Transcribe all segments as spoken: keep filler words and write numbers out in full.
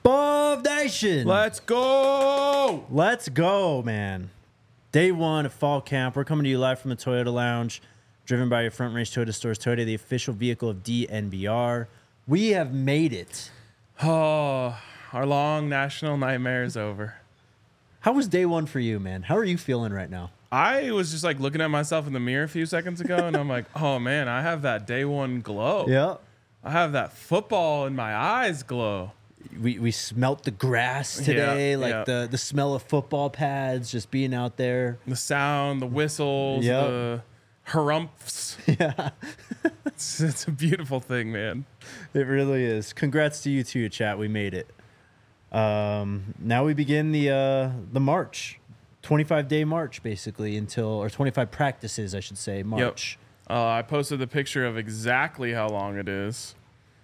Bov Nation. Let's go. Let's go, man. Day one of fall camp. We're coming to you live from the Toyota Lounge, driven by your Front Range Toyota stores. Toyota, the official vehicle of D N V R. We have made it. Oh, our long national nightmare is over. How was day one for you, man? How are you feeling right now? I was just like looking at myself in the mirror a few seconds ago, and I'm like, oh man, I have that day one glow. Yeah. I have that football in my eyes glow. We we smelt the grass today, Yeah, like yeah. the the smell of football pads, just being out there. The sound, the whistles, Yep. the harumphs. Yeah, It's, it's a beautiful thing, man. it really is. Congrats to you too, chat. We made it. Um, now we begin the uh, the march, twenty-five day march, basically until or twenty-five practices, I should say, march. Yep. Uh, I posted the picture of exactly how long it is.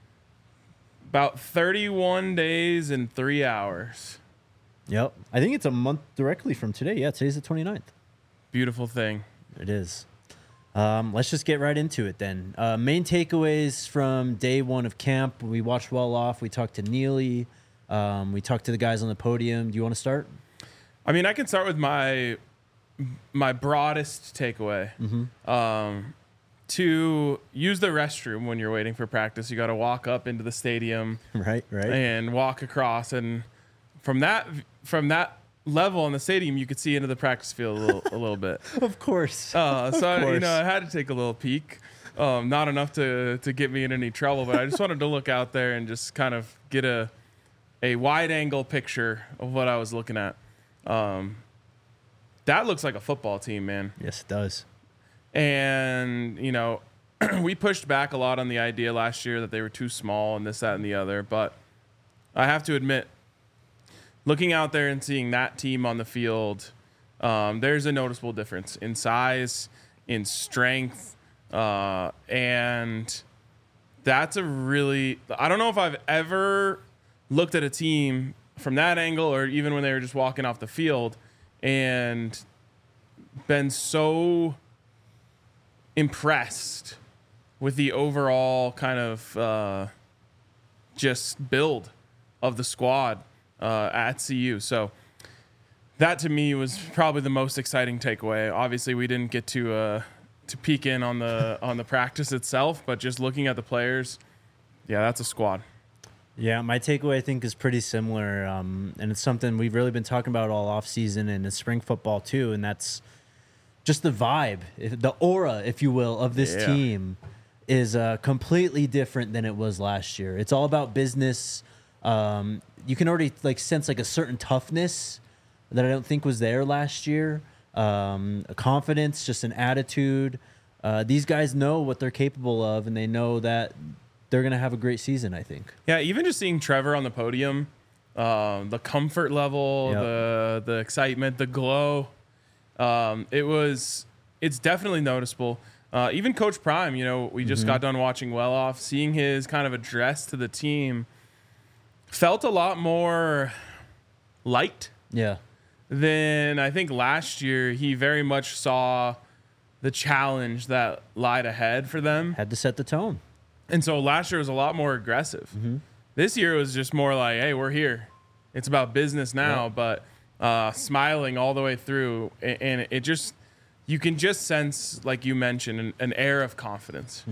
About thirty-one days and three hours. Yep. I think it's a month directly from today. Yeah, today's the twenty-ninth. Beautiful thing. It is. Um, let's just get right into it then. Uh, main takeaways from day one of camp. We watched Well Off. We talked to Neely. Um, we talked to the guys on the podium. Do you want to start? I mean, I can start with my my broadest takeaway. Mm-hmm. Um, to use the restroom when you're waiting for practice, you got to walk up into the stadium Right, right. and walk across, and from that from that level in the stadium, you could see into the practice field a little, a little bit. Of course. Uh, so I, you course. know, I had to take a little peek. Um, not enough to to get me in any trouble, but I just wanted to look out there and just kind of get a a wide angle picture of what I was looking at. Um, that looks like a football team, man. Yes, it does. And, you know, we pushed back a lot on the idea last year that they were too small and this, that, and the other. But I have to admit, looking out there and seeing that team on the field, um, there's a noticeable difference in size, in strength. Uh, and that's a really, I don't know if I've ever looked at a team from that angle or even when they were just walking off the field and been so impressed with the overall kind of uh, just build of the squad uh, at C U. So that to me was probably the most exciting takeaway. Obviously, we didn't get to uh, to peek in on the on the practice itself, but just looking at the players, yeah, that's a squad. Yeah, my takeaway I think is pretty similar, um, and it's something we've really been talking about all off season and in spring football too, and that's just the vibe, if- the aura, if you will, of this Yeah. team is uh, completely different than it was last year. It's all about business. Um, you can already like sense like a certain toughness that I don't think was there last year. Um, a confidence, just an attitude. Uh, these guys know what they're capable of, and they know that they're gonna have a great season, I think. Yeah, even just seeing Trevor on the podium, um, the comfort level, Yep. the the excitement, the glow, um, it was it's definitely noticeable. Uh, even Coach Prime, you know, we just Mm-hmm. got done watching Well Off, seeing his kind of address to the team, felt a lot more light Yeah. than I think last year. He very much saw the challenge that lied ahead for them. Had to set the tone. And so last year was a lot more aggressive. Mm-hmm. This year was just more like, hey, we're here. It's about business now, Yeah. but uh, smiling all the way through. A- And it just, you can just sense, like you mentioned, an, an air of confidence.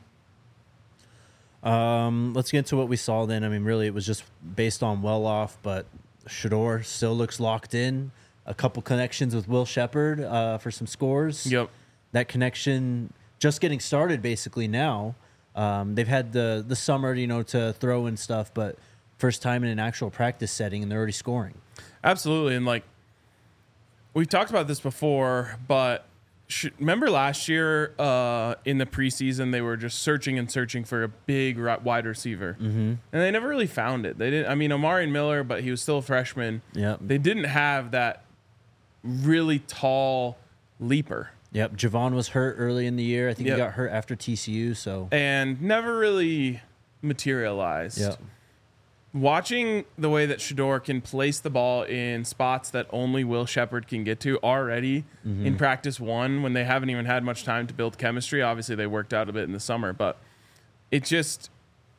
Um, let's get into what we saw then. I mean, really, it was just based on Well Off, but Shador still looks locked in. A couple connections with Will Shepard uh, for some scores. Yep. That connection just getting started basically now. Um, they've had the the summer, you know, to throw in stuff, but first time in an actual practice setting, and they're already scoring. Absolutely. And like, we've talked about this before, but sh- remember last year uh, in the preseason, they were just searching and searching for a big ri- wide receiver. Mm-hmm. And they never really found it. They didn't, I mean, Omari Miller, but he was still a freshman. Yep. They didn't have that really tall leaper. Yep. Javon was hurt early in the year. I think Yep. he got hurt after T C U. So And never really materialized. yeah, Watching the way that Shador can place the ball in spots that only Will Shepard can get to already Mm-hmm. in practice one when they haven't even had much time to build chemistry. Obviously, they worked out a bit in the summer, but it just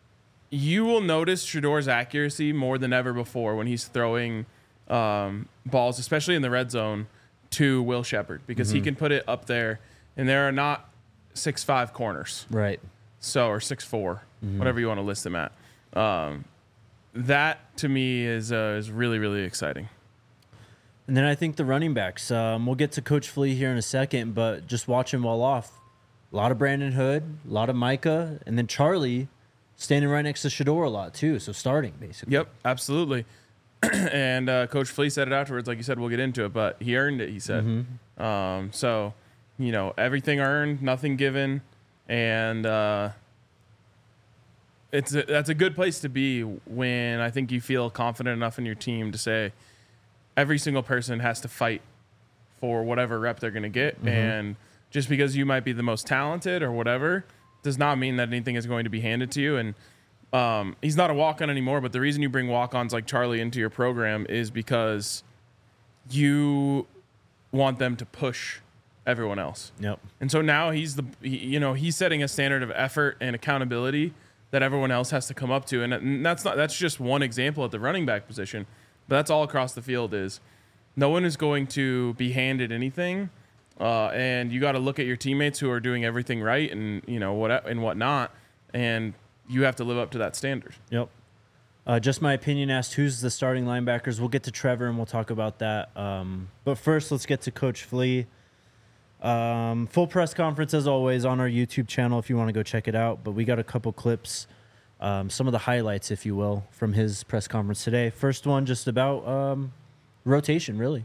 you will notice Shedor's accuracy more than ever before when he's throwing um, balls, especially in the red zone, to Will Shepherd, because mm-hmm. he can put it up there, and there are not six five corners. Right. So, or six four, mm-hmm. whatever you want to list them at. Um, that, to me, is uh, is really, really exciting. And then I think the running backs, um, we'll get to Coach Flea here in a second, but just watch him well off. A lot of Brandon Hood, a lot of Micah, and then Charlie standing right next to Shedeur a lot too, so starting basically. Yep, absolutely. and uh, Coach Flea said it afterwards, like you said, we'll get into it, but he earned it, he said. Mm-hmm. Um, so, you know, everything earned, nothing given, and uh, it's a, that's a good place to be when I think you feel confident enough in your team to say every single person has to fight for whatever rep they're going to get, mm-hmm. and just because you might be the most talented or whatever does not mean that anything is going to be handed to you. And um, he's not a walk-on anymore, but the reason you bring walk-ons like Charlie into your program is because you want them to push everyone else. Yep. And so now he's the, he, you know, he's setting a standard of effort and accountability that everyone else has to come up to. And that's not, that's just one example at the running back position, but that's all across the field is no one is going to be handed anything. Uh, and you got to look at your teammates who are doing everything right and, you know, what and whatnot. And you have to live up to that standard. Yep. Uh, just my opinion asked who's the starting linebackers. We'll get to Trevor and we'll talk about that. Um, but first, let's get to Coach Flea. Um, full press conference, as always, on our YouTube channel if you want to go check it out. But we got a couple clips, um, some of the highlights, if you will, from his press conference today. First one just about um, rotation, really.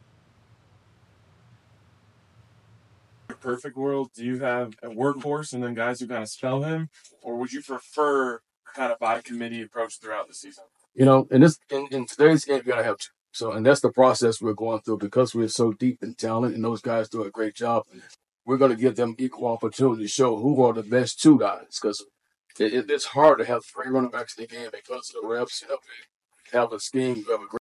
Perfect world, do you have a workhorse and then guys who kind of spell him, or would you prefer kind of by committee approach throughout the season? You know, in this in, in today's game, you gotta have two. So, and that's the process we're going through because we're so deep in talent, and those guys do a great job. We're going to give them equal opportunity to show who are the best two guys, because it, it, it's hard to have three running backs in the game because of the reps. You know, have a scheme, you have a great.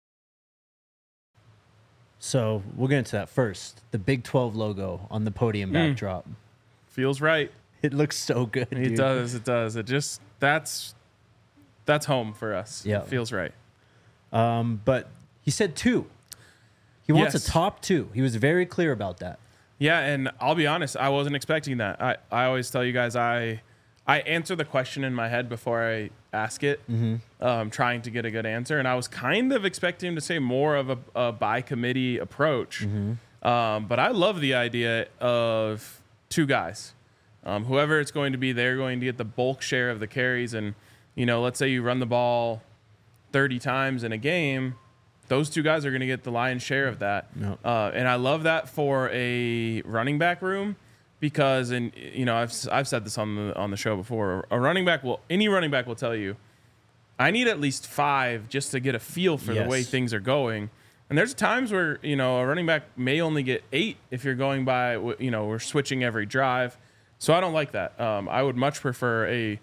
So we'll get into that first. The Big twelve logo on the podium mm. backdrop. Feels right. It looks so good. It dude. does. It does. It just that's that's home for us. Yeah, it feels right. Um, but he said two. He wants yes. a top two. He was very clear about that. Yeah, and I'll be honest, I wasn't expecting that. I, I always tell you guys I I answer the question in my head before I ask it, mm-hmm. um, trying to get a good answer. And I was kind of expecting him to say more of a, a by committee approach. Mm-hmm. Um, but I love the idea of two guys. Um, whoever it's going to be, they're going to get the bulk share of the carries. And, you know, let's say you run the ball thirty times in a game. Those two guys are going to get the lion's share of that. Yep. Uh, and I love that for a running back room. Because, and you know, I've I've said this on the on the show before. A running back will any running back will tell you, I need at least five just to get a feel for yes. the way things are going. And there's times where you know a running back may only get eight if you're going by you know we're switching every drive. So I don't like that. Um, I would much prefer a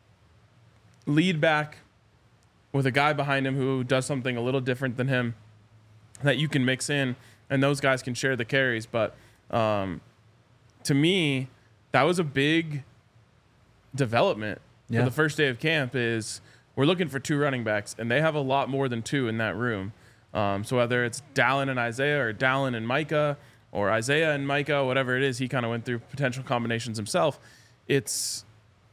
lead back with a guy behind him who does something a little different than him that you can mix in, and those guys can share the carries. But um, to me, that was a big development yeah. for the first day of camp is we're looking for two running backs, and they have a lot more than two in that room. Um, so whether it's Dallin and Isaiah or Dallin and Micah or Isaiah and Micah, whatever it is, he kind of went through potential combinations himself. It's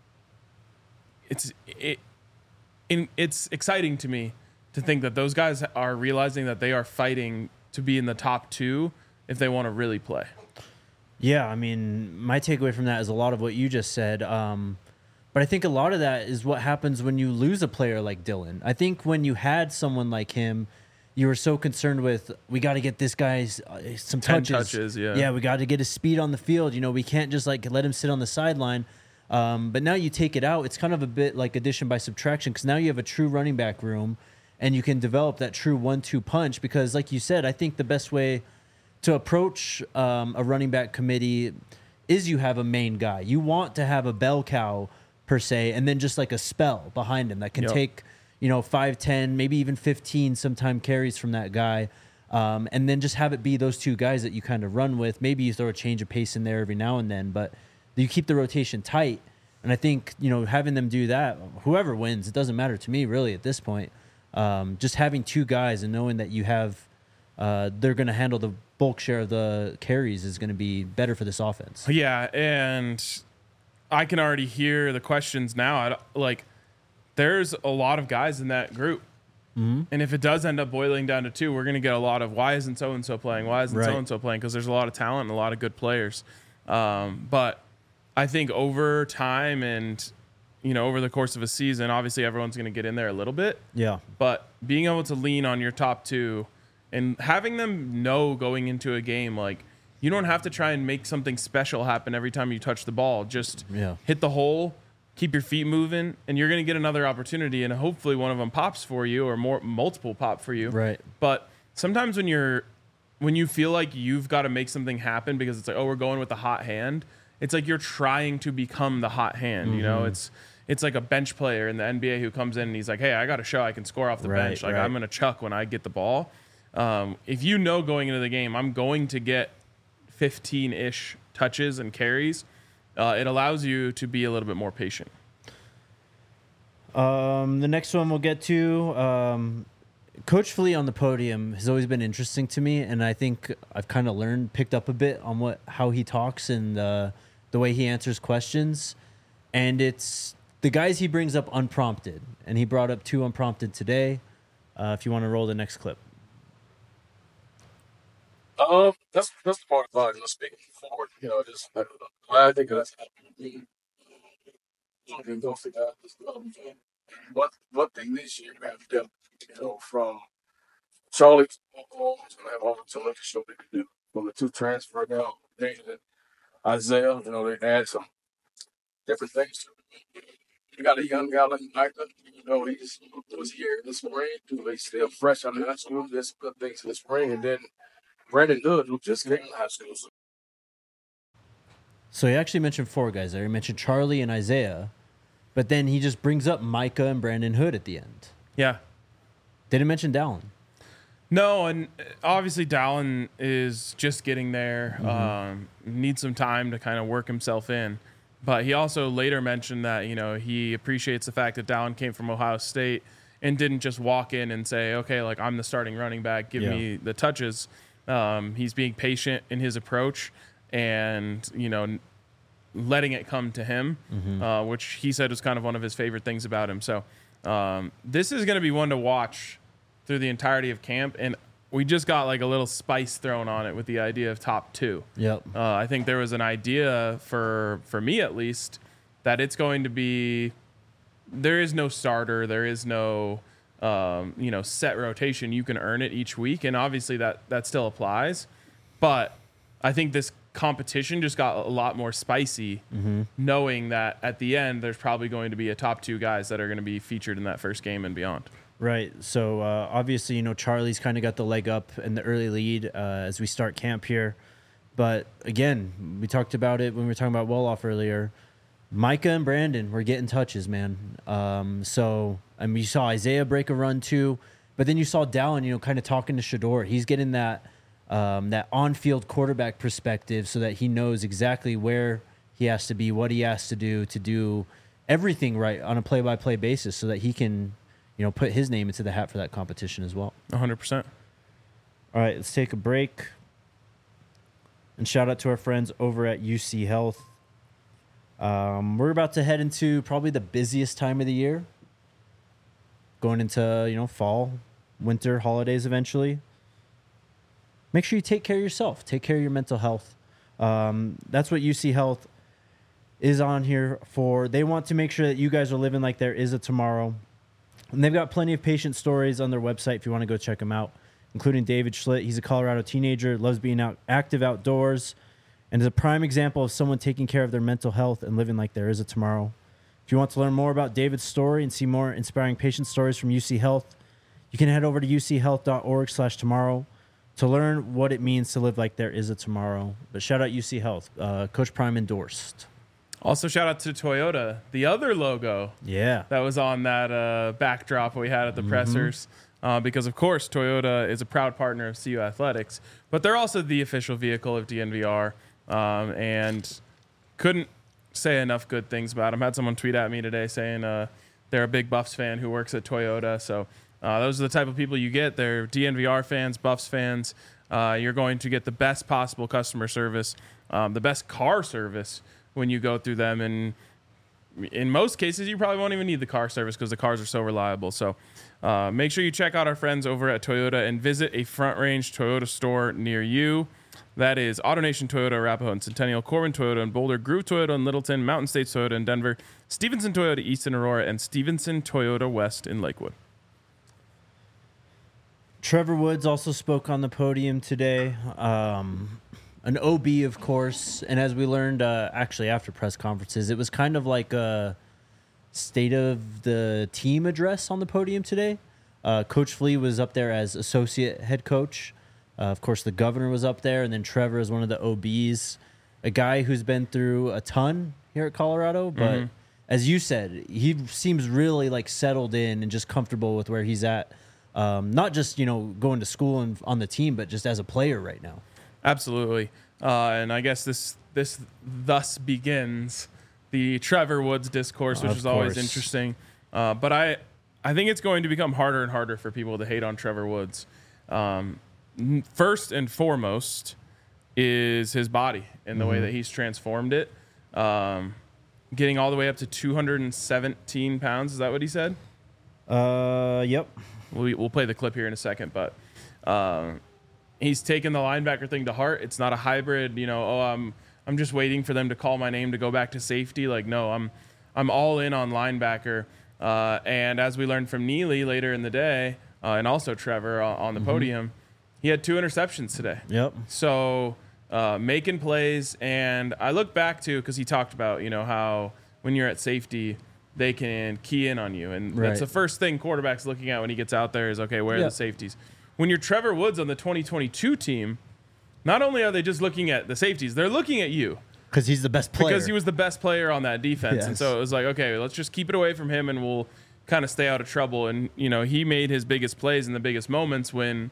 it's it, in, it's exciting to me to think that those guys are realizing that they are fighting to be in the top two if they want to really play. Yeah, I mean, my takeaway from that is a lot of what you just said. Um, but I think a lot of that is what happens when you lose a player like Dylan. I think when you had someone like him, you were so concerned with, we got to get this guy some Ten touches. touches, yeah. Yeah, we got to get his speed on the field. You know, we can't just like let him sit on the sideline. Um, but now you take it out. It's kind of a bit like addition by subtraction because now you have a true running back room and you can develop that true one two punch because, like you said, I think the best way to approach um, a running back committee is you have a main guy. You want to have a bell cow, per se, and then just like a spell behind him that can yep. take, you know, five, ten, maybe even fifteen sometime carries from that guy. Um, and then just have it be those two guys that you kind of run with. Maybe you throw a change of pace in there every now and then, but you keep the rotation tight. And I think, you know, having them do that, whoever wins, it doesn't matter to me really at this point. Um, just having two guys and knowing that you have, uh, they're going to handle the bulk share of the carries is going to be better for this offense. Yeah, and I can already hear the questions now. I don't- like, there's a lot of guys in that group. Mm-hmm. And if it does end up boiling down to two, we're going to get a lot of why isn't so-and-so playing? Why isn't Right. so-and-so playing? Because there's a lot of talent and a lot of good players. Um, but I think over time and, you know, over the course of a season, obviously everyone's going to get in there a little bit. Yeah. But being able to lean on your top two and having them know going into a game, like, you don't have to try and make something special happen every time you touch the ball. Just Yeah. hit the hole, keep your feet moving, and you're going to get another opportunity, and hopefully one of them pops for you or more multiple pop for you. Right. But sometimes when you're when you feel like you've got to make something happen because it's like, oh, we're going with the hot hand, it's like you're trying to become the hot hand. Mm-hmm. You know, it's it's like a bench player in the N B A who comes in and he's like, hey, I got to show I can score off the Right, bench. Like, right. I'm going to chuck when I get the ball. Um, if you know going into the game, I'm going to get fifteen-ish touches and carries, uh, it allows you to be a little bit more patient. Um, the next one we'll get to, um, Coach Flea on the podium has always been interesting to me, and I think I've kind of learned, picked up a bit on what how he talks and uh, the way he answers questions. And it's the guys he brings up unprompted, and he brought up two unprompted today. Uh, if you want to roll the next clip. Um, that's that's the part about you know, speaking forward. You know, just I, I think that's happening. Don't forget this. Um, One one thing this year we have to do, you know, from Charlie to Oklahoma, to have all the talent to show what they can do. From the two transfer now, Nathan and Isaiah, you know, they add some different things to it. You got a young guy like Micah, you know, he's was here this spring, too. He's still fresh out of high school, did some good things in the spring, and then Brandon Good, who just came to high school. So So he actually mentioned four guys there. He mentioned Charlie and Isaiah, but then he just brings up Micah and Brandon Hood at the end. Yeah. Didn't mention Dallin. No, and obviously Dallin is just getting there. Mm-hmm. Um, needs some time to kind of work himself in. But he also later mentioned that, you know, he appreciates the fact that Dallin came from Ohio State and didn't just walk in and say, okay, like, I'm the starting running back, give Yeah. me the touches. Um, he's being patient in his approach and, you know, letting it come to him, Mm-hmm. uh, which he said was kind of one of his favorite things about him. So um, this is going to be one to watch through the entirety of camp. And we just got like a little spice thrown on it with the idea of top two. Yep. Uh, I think there was an idea for, for me at least, that it's going to be, there is no starter. There is no, um, you know, set rotation. You can earn it each week. And obviously that, that still applies. But I think this competition just got a lot more spicy, Mm-hmm. knowing that at the end, there's probably going to be a top two guys that are going to be featured in that first game and beyond. Right. So uh, obviously, you know, Charlie's kind of got the leg up in the early lead uh, as we start camp here. But again, we talked about it when we were talking about Wolof earlier. Micah and Brandon were getting touches, man. Um, so I mean, you saw Isaiah break a run too, but then you saw Dallin, you know, kind of talking to Shador. He's getting that um, that on-field quarterback perspective, so that he knows exactly where he has to be, what he has to do to do everything right on a play-by-play basis, so that he can, you know, put his name into the hat for that competition as well. one hundred percent. All right, let's take a break. And shout out to our friends over at U C Health. Um, we're about to head into probably the busiest time of the year. Going into, you know, fall, winter, holidays eventually. Make sure you take care of yourself. Take care of your mental health. Um, that's what U C Health is on here for. They want to make sure that you guys are living like there is a tomorrow. And they've got plenty of patient stories on their website if you want to go check them out, including David Schlitt. He's a Colorado teenager, loves being out active outdoors, and is a prime example of someone taking care of their mental health and living like there is a tomorrow. If you want to learn more about David's story and see more inspiring patient stories from U C Health, you can head over to u c health dot org slash tomorrow to learn what it means to live like there is a tomorrow. But shout out U C Health. Uh, Coach Prime endorsed. Also, shout out to Toyota, the other logo Yeah. that was on that uh, backdrop we had at the pressers. Uh, because, of course, Toyota is a proud partner of C U Athletics, but they're also the official vehicle of D N V R, um, and couldn't say enough good things about him. I had someone tweet at me today saying uh, they're a big Buffs fan who works at Toyota. So uh, those are the type of people you get. They're D N V R fans, Buffs fans. Uh, you're going to get the best possible customer service, um, the best car service when you go through them. And in most cases, you probably won't even need the car service because the cars are so reliable. So uh, make sure you check out our friends over at Toyota and visit a Front Range Toyota store near you. That is AutoNation Toyota, Arapahoe and Centennial, Corbin Toyota in Boulder, Groove Toyota in Littleton, Mountain States Toyota in Denver, Stevenson Toyota East in Aurora, and Stevenson Toyota West in Lakewood. Trevor Woods also spoke on the podium today. Um, an O B, of course. And as we learned, uh, actually, after press conferences, it was kind of like a state of the team address on the podium today. Uh, Coach Flea was up there as associate head coach. Uh, of course, the governor was up there. And then Trevor is one of the O Bs, a guy who's been through a ton here at Colorado. But mm-hmm. as you said, he seems really like settled in and just comfortable with where he's at. Um, not just, you know, going to school and on the team, but just as a player right now. Absolutely. Uh, and I guess this this thus begins the Trevor Woods discourse, which of is always course. interesting. Uh, but I, I think it's going to become harder and harder for people to hate on Trevor Woods. Um, first and foremost is his body and the mm-hmm. way that he's transformed it. Um, getting all the way up to two hundred seventeen pounds. Is that what he said? Uh, yep. We, we'll play the clip here in a second, but um, he's taken the linebacker thing to heart. It's not a hybrid, you know, oh, I'm I'm just waiting for them to call my name to go back to safety. Like, no, I'm I'm all in on linebacker. Uh, and as we learned from Neely later in the day, uh, and also Trevor on, on the mm-hmm. podium, he had two interceptions today. Yep. So uh, making plays, and I look back to, because he talked about, you know, how when you're at safety, they can key in on you. And right. that's the first thing quarterback's looking at when he gets out there is, okay, where are yep. the safeties? When you're Trevor Woods on the twenty twenty-two team, not only are they just looking at the safeties, they're looking at you. Because he's the best player. Because he was the best player on that defense. Yes. And so it was like, okay, let's just keep it away from him and we'll kind of stay out of trouble. And, you know, he made his biggest plays in the biggest moments when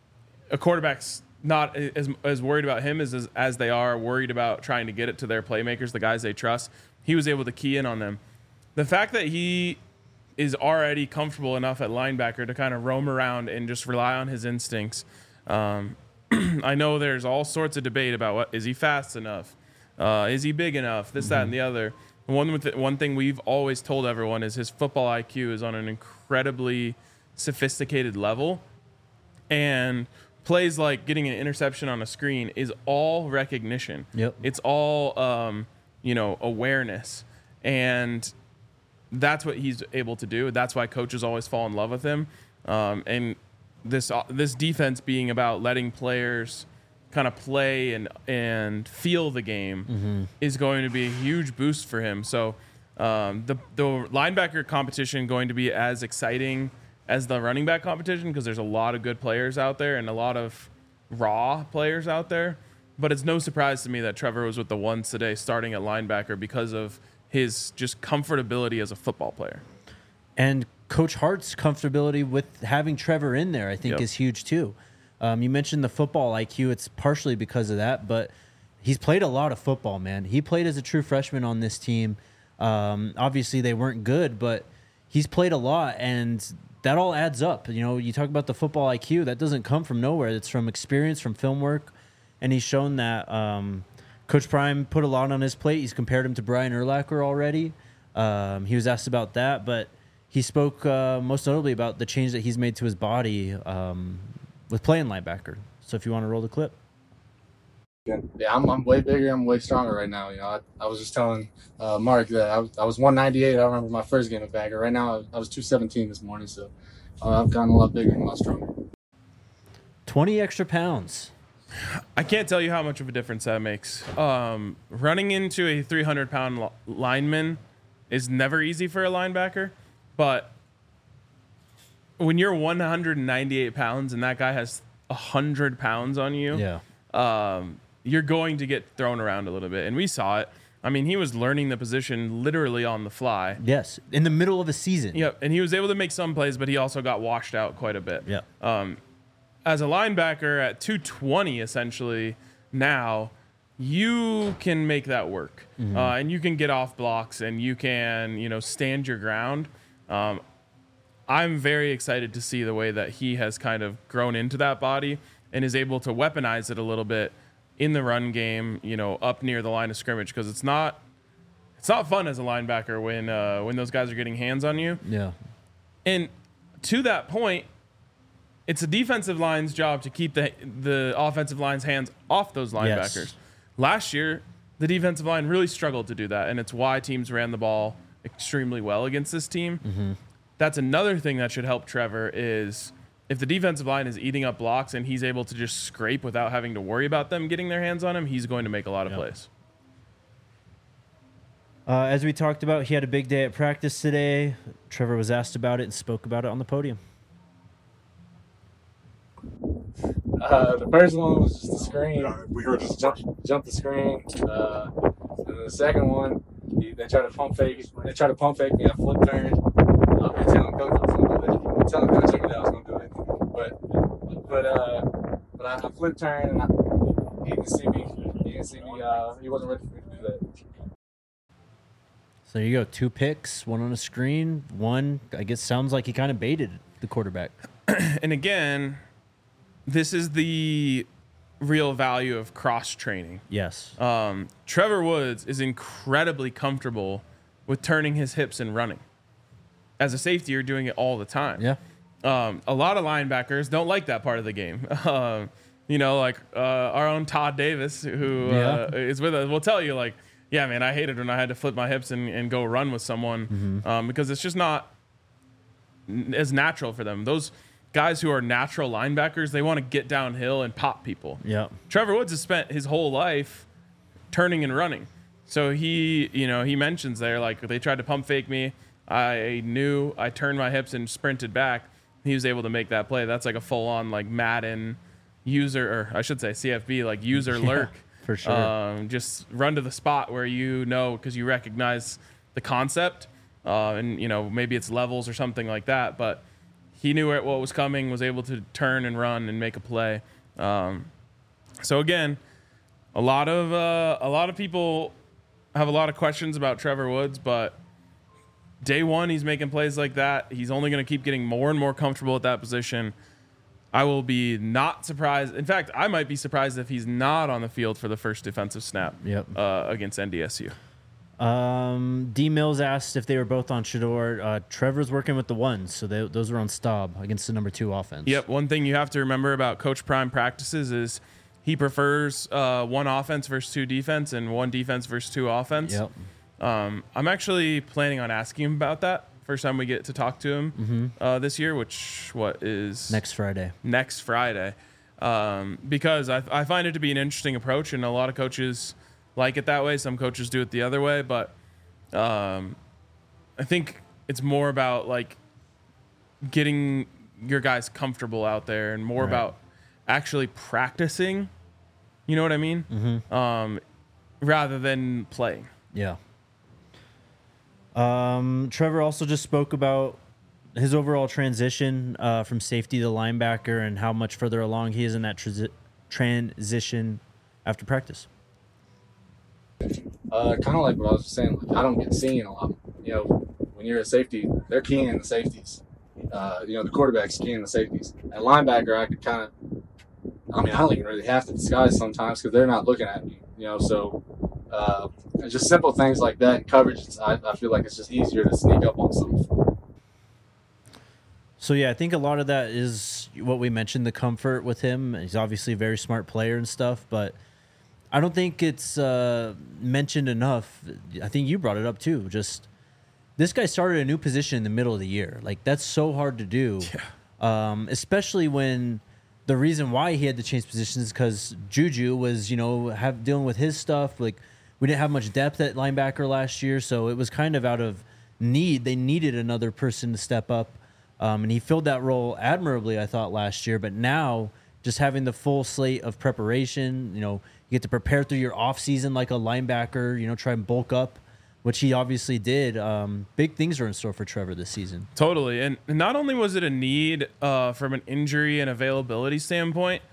a quarterback's not as, as worried about him as, as as they are worried about trying to get it to their playmakers, the guys they trust. He was able to key in on them. The fact that he is already comfortable enough at linebacker to kind of roam around and just rely on his instincts. Um, I know there's all sorts of debate about what is he fast enough, uh, is he big enough, this, mm-hmm. that, and the other. One with the, one thing we've always told everyone is his football I Q is on an incredibly sophisticated level, and plays like getting an interception on a screen is all recognition. Yep. It's all um, you know, awareness, and that's what he's able to do. That's why coaches always fall in love with him. Um, and this uh, this defense being about letting players kind of play and and feel the game mm-hmm. is going to be a huge boost for him. So um, the the linebacker competition going to be as exciting as the running back competition because there's a lot of good players out there and a lot of raw players out there. But it's no surprise to me that Trevor was with the ones today starting at linebacker because of his just comfortability as a football player. And Coach Hart's comfortability with having Trevor in there, I think, yep. is huge too. Um, you mentioned the football I Q. It's partially because of that, but he's played a lot of football, man. He played as a true freshman on this team. Um, obviously, they weren't good, but he's played a lot, and that all adds up. You know, you talk about the football I Q. That doesn't come from nowhere. It's from experience, from film work, and he's shown that um, – Coach Prime put a lot on his plate. He's compared him to Brian Urlacher already. Um, he was asked about that, but he spoke uh, most notably about the change that he's made to his body um, with playing linebacker. So if you want to roll the clip. Yeah, I'm, I'm way bigger. I'm way stronger right now. You know, I, I was just telling uh, Mark that I, I was one ninety-eight. I remember my first game at Bagger. Right now, I was two seventeen this morning, so uh, I've gotten a lot bigger and a lot stronger. twenty extra pounds. I can't tell you how much of a difference that makes. Um, running into a three hundred pound li- lineman is never easy for a linebacker, but when you're one hundred ninety-eight pounds and that guy has one hundred pounds on you, yeah, um, you're going to get thrown around a little bit. And we saw it. I mean, he was learning the position literally on the fly. Yes, in the middle of a season. Yep, and he was able to make some plays, but he also got washed out quite a bit. Yeah. Um, as a linebacker at two twenty, essentially, now, you can make that work, Mm-hmm. uh, and you can get off blocks, and you can, you know, stand your ground. Um, I'm very excited to see the way that he has kind of grown into that body and is able to weaponize it a little bit in the run game, you know, up near the line of scrimmage, because it's not it's not fun as a linebacker when uh, when those guys are getting hands on you. Yeah. And to that point, it's a defensive line's job to keep the the offensive line's hands off those linebackers. Yes. Last year, the defensive line really struggled to do that, and it's why teams ran the ball extremely well against this team. Mm-hmm. That's another thing that should help Trevor is if the defensive line is eating up blocks and he's able to just scrape without having to worry about them getting their hands on him, he's going to make a lot of Yep. plays. Uh, as we talked about, he had a big day at practice today. Trevor was asked about it and spoke about it on the podium. Uh, the first one was just the screen. Yeah, we heard Just this. jump, jump the screen. Uh, and then the second one, he, they tried to pump fake. They tried to pump fake me. I flip turned. I've been telling coach I was gonna do it. I've been telling coach every day I was gonna do it. But but uh, but I, I flip turned and I, he didn't see me. He didn't see me. Uh, he wasn't ready for me to do that. So there you go. Two picks, one on a screen, one, I guess, sounds like he kind of baited the quarterback. And again, this is the real value of cross training. Yes. Um, Trevor Woods is incredibly comfortable with turning his hips and running. As a safety, you're doing it all the time. Yeah. Um, a lot of linebackers don't like that part of the game. Um, you know, like uh, our own Todd Davis, who uh, is with us, will tell you, like, yeah, man, I hated when I had to flip my hips and, and go run with someone Mm-hmm. um, because it's just not n- as natural for them. Those guys who are natural linebackers, they want to get downhill and pop people. Yeah. Trevor Woods has spent his whole life turning and running. So he, you know, he mentions there, like, they tried to pump fake me. I knew I turned my hips and sprinted back. He was able to make that play. That's like a full on, like, Madden user, or I should say C F B, like user Yeah, lurk. for sure. Um, just run to the spot where you know, because you recognize the concept. Uh, and, you know, maybe it's levels or something like that. But he knew what was coming, was able to turn and run and make a play. Um, so again, a lot of uh, a lot of people have a lot of questions about Trevor Woods, but day one he's making plays like that. He's only going to keep getting more and more comfortable at that position. I will be not surprised. In fact, I might be surprised if he's not on the field for the first defensive snap Yep. uh, against N D S U. Um, D Mills asked if they were both on Shador. Uh, Trevor's working with the ones, so they, those were on Staub against the number two offense. Yep. One thing you have to remember about Coach Prime practices is he prefers uh, one offense versus two defense and one defense versus two offense. Yep. Um, I'm actually planning on asking him about that first time we get to talk to him Mm-hmm. uh, this year, which what is Next Friday. next Friday, um, because I, I find it to be an interesting approach, and a lot of coaches like it that way. Some coaches do it the other way, but um, I think it's more about like getting your guys comfortable out there, and more Right. about actually practicing. You know what I mean? Mm-hmm. Um, rather than playing. Yeah. Um, Trevor also just spoke about his overall transition uh, from safety to linebacker and how much further along he is in that transi- transition after practice. Uh, kind of like what I was saying. Like, I don't get seen a lot. You know, when you're a safety, they're keying the safeties. Uh, you know, the quarterback's keying the safeties. At linebacker, I could kind of. I mean, I don't even really have to disguise sometimes because they're not looking at me. You know, so uh, just simple things like that. Coverage, it's, I, I feel like it's just easier to sneak up on something. So, yeah, I think a lot of that is what we mentioned, the comfort with him. He's obviously a very smart player and stuff, but I don't think it's uh, mentioned enough. I think you brought it up too. Just this guy started a new position in the middle of the year. Like, that's so hard to do, yeah. um, especially when the reason why he had to change positions is because Juju was, you know, have dealing with his stuff. Like, we didn't have much depth at linebacker last year, so it was kind of out of need. They needed another person to step up. Um, and he filled that role admirably, I thought, last year. But now, just having the full slate of preparation, you know, you get to prepare through your offseason like a linebacker, you know, try and bulk up, which he obviously did. Um, big things are in store for Trevor this season. Totally. And not only was it a need uh, from an injury and availability standpoint,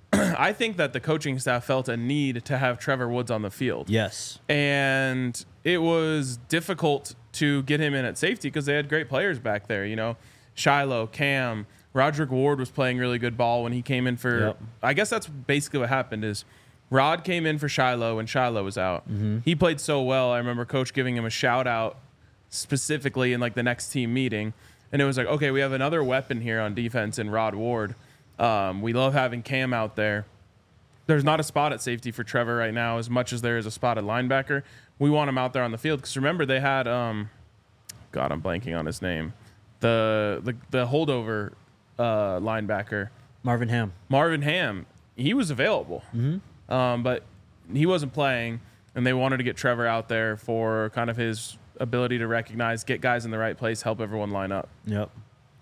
I think that the coaching staff felt a need to have Trevor Woods on the field. Yes. And it was difficult to get him in at safety because they had great players back there. You know, Shiloh, Cam, Roderick Ward was playing really good ball when he came in for. Yep. I guess that's basically what happened is Rod came in for Shiloh when Shiloh was out. Mm-hmm. He played so well. I remember Coach giving him a shout out specifically in like the next team meeting, and it was like, okay, we have another weapon here on defense in Rod Ward. Um, we love having Cam out there. There's not a spot at safety for Trevor right now as much as there is a spot at linebacker. We want him out there on the field because remember they had, um, God, I'm blanking on his name, the the, the holdover uh, linebacker, Marvin Ham. Marvin Ham. He was available, mm-hmm. um, but he wasn't playing, and they wanted to get Trevor out there for kind of his ability to recognize, get guys in the right place, help everyone line up. Yep.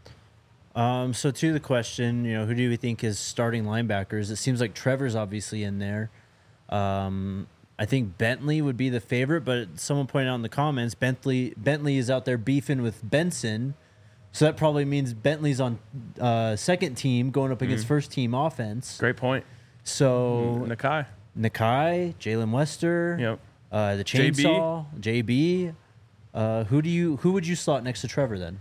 Um, so to the question, you know, who do we think is starting linebackers? It seems like Trevor's obviously in there. Um, I think Bentley would be the favorite, but someone pointed out in the comments, Bentley Bentley is out there beefing with Benson. So that probably means Bentley's on uh, second team going up against mm. first team offense. Great point. So mm, Nakai. Nakai, Jalen Wester, yep. uh, the chainsaw, J B. Uh, who do you who would you slot next to Trevor then?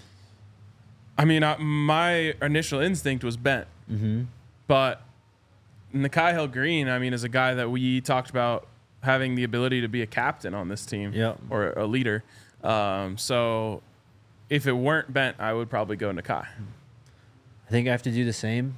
I mean, uh, my initial instinct was Bent, mm-hmm. but Nakai Hill Green, I mean, is a guy that we talked about having the ability to be a captain on this team yep. or a leader. Um, so if it weren't Bent, I would probably go Nakai. I think I have to do the same.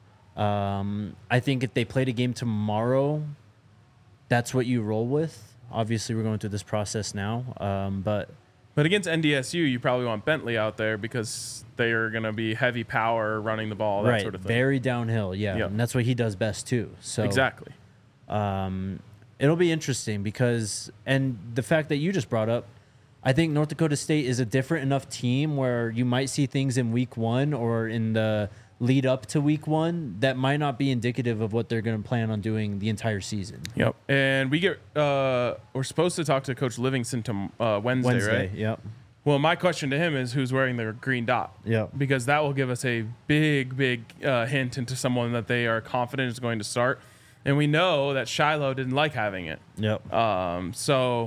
Um, I think if they played a game tomorrow, that's what you roll with. Obviously, we're going through this process now, um, but... But against N D S U, you probably want Bentley out there because they are going to be heavy power running the ball, that right, sort of thing. Very downhill, yeah. Yep. And that's what he does best, too. So Exactly. Um, it'll be interesting because, and the fact that you just brought up, I think North Dakota State is a different enough team where you might see things in week one or in the lead up to week one that might not be indicative of what they're going to plan on doing the entire season. Yep. And we get, uh, we're supposed to talk to Coach Livingston to, uh, Wednesday, Wednesday, right? Yep. Well, my question to him is who's wearing the green dot? Yep. Because that will give us a big, big uh, hint into someone that they are confident is going to start. And we know that Shiloh didn't like having it. Yep. Um, so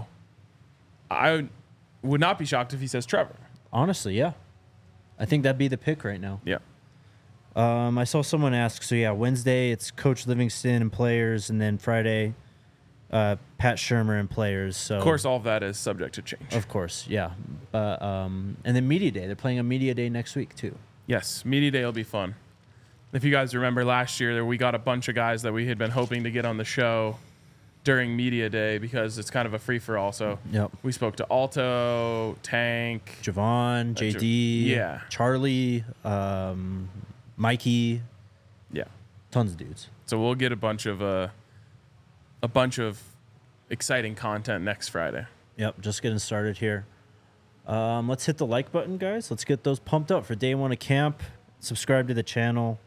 I would not be shocked if he says Trevor. Honestly, yeah. I think that'd be the pick right now. Yeah. Um, I saw someone ask, so yeah, Wednesday it's Coach Livingston and players, and then Friday, uh, Pat Shermer and players. So of course, all of that is subject to change. Of course, yeah. But um, and then Media Day. They're playing a Media Day next week too. Yes, Media Day will be fun. If you guys remember last year, we got a bunch of guys that we had been hoping to get on the show during Media Day because it's kind of a free for all. So yep. we spoke to Alto, Tank, Javon, J D, yeah, Charlie, um, Mikey, yeah, tons of dudes. So we'll get a bunch of uh, a bunch of exciting content next Friday. Yep, just getting started here. Um, let's hit the like button, guys. Let's get those pumped up for day one of camp. Subscribe to the channel.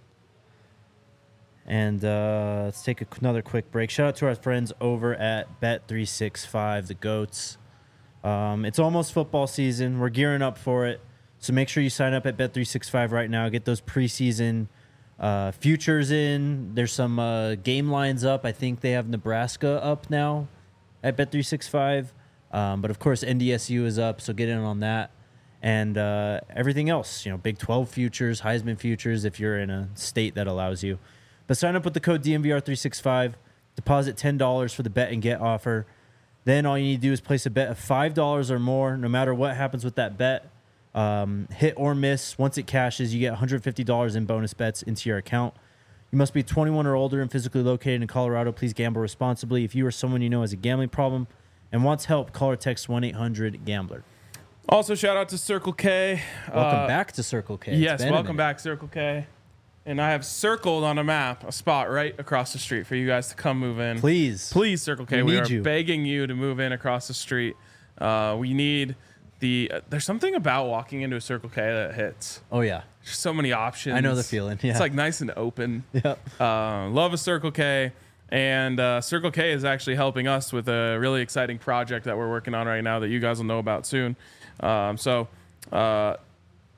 And uh, let's take a, another quick break. Shout out to our friends over at Bet three sixty-five, the GOATs. Um, it's almost football season. We're gearing up for it. So make sure you sign up at Bet three sixty-five right now. Get those preseason uh, futures in. There's some uh, game lines up. I think they have Nebraska up now at Bet three sixty-five. Um, but, of course, N D S U is up, so get in on that. And uh, everything else, you know, Big twelve futures, Heisman futures if you're in a state that allows you. But sign up with the code D M V R three sixty-five. Deposit ten dollars for the bet and get offer. Then all you need to do is place a bet of five dollars or more, no matter what happens with that bet. Um, hit or miss. Once it cashes, you get one hundred fifty dollars in bonus bets into your account. You must be twenty-one or older and physically located in Colorado. Please gamble responsibly. If you or someone you know has a gambling problem and wants help, call or text one eight hundred gambler. Also, shout out to Circle K. Welcome uh, back to Circle K. Yes, welcome back, Circle K. And I have circled on a map a spot right across the street for you guys to come move in. Please. Please, Circle K. We We, need are you. begging you to move in across the street. Uh, we need the... Uh, there's something about walking into a Circle K that hits. Oh, yeah. There's so many options. I know the feeling, yeah. It's like nice and open. Yep. Uh, love a Circle K. And uh, Circle K is actually helping us with a really exciting project that we're working on right now that you guys will know about soon. Um, so... Uh,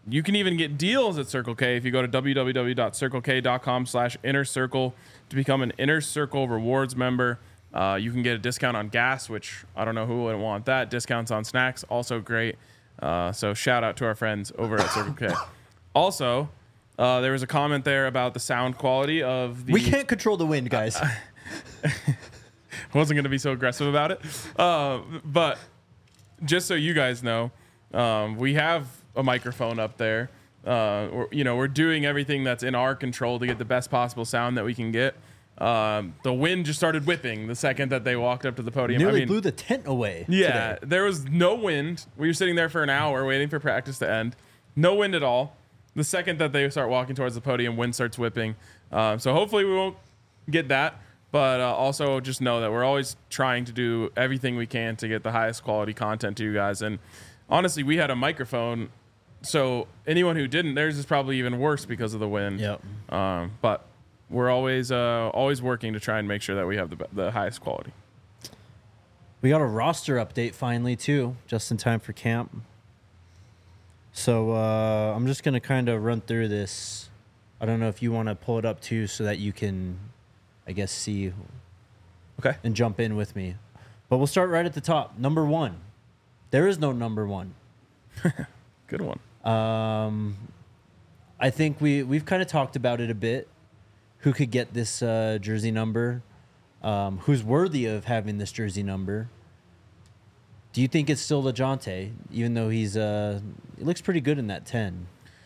you can even get deals at Circle K if you go to www.circlek.com slash inner circle to become an Inner Circle Rewards member. Uh, you can get a discount on gas, which I don't know who wouldn't want that. Discounts on snacks, also great. Uh, so shout out to our friends over at Circle K. Also, uh, there was a comment there about the sound quality of the... We can't control the wind, guys. I wasn't going to be so aggressive about it. Uh, but just so you guys know, um, we have a microphone up there. Uh, we're, you know, we're doing everything that's in our control to get the best possible sound that we can get. Um, the wind just started whipping the second that they walked up to the podium. Nearly I mean, blew the tent away. yeah, today. there was no wind. We were sitting there for an hour waiting for practice to end. No wind at all. The second that they start walking towards the podium, wind starts whipping. Um, so hopefully we won't get that. But uh, also just know that we're always trying to do everything we can to get the highest quality content to you guys. And honestly, we had a microphone. So anyone who didn't, theirs is probably even worse because of the wind. Yep. Um, but we're always uh, always working to try and make sure that we have the, be- the highest quality. We got a roster update finally, too, just in time for camp. So uh, I'm just going to kind of run through this. I don't know if you want to pull it up, too, so that you can, I guess, see Okay. and jump in with me. But we'll start right at the top. Number one. There is no number one. Good one. Um, I think we, we've kind of talked about it a bit. Who could get this uh, jersey number? Um, who's worthy of having this jersey number? Do you think it's still LeJohntay, even though he's uh, he looks pretty good in that ten?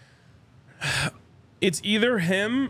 It's either him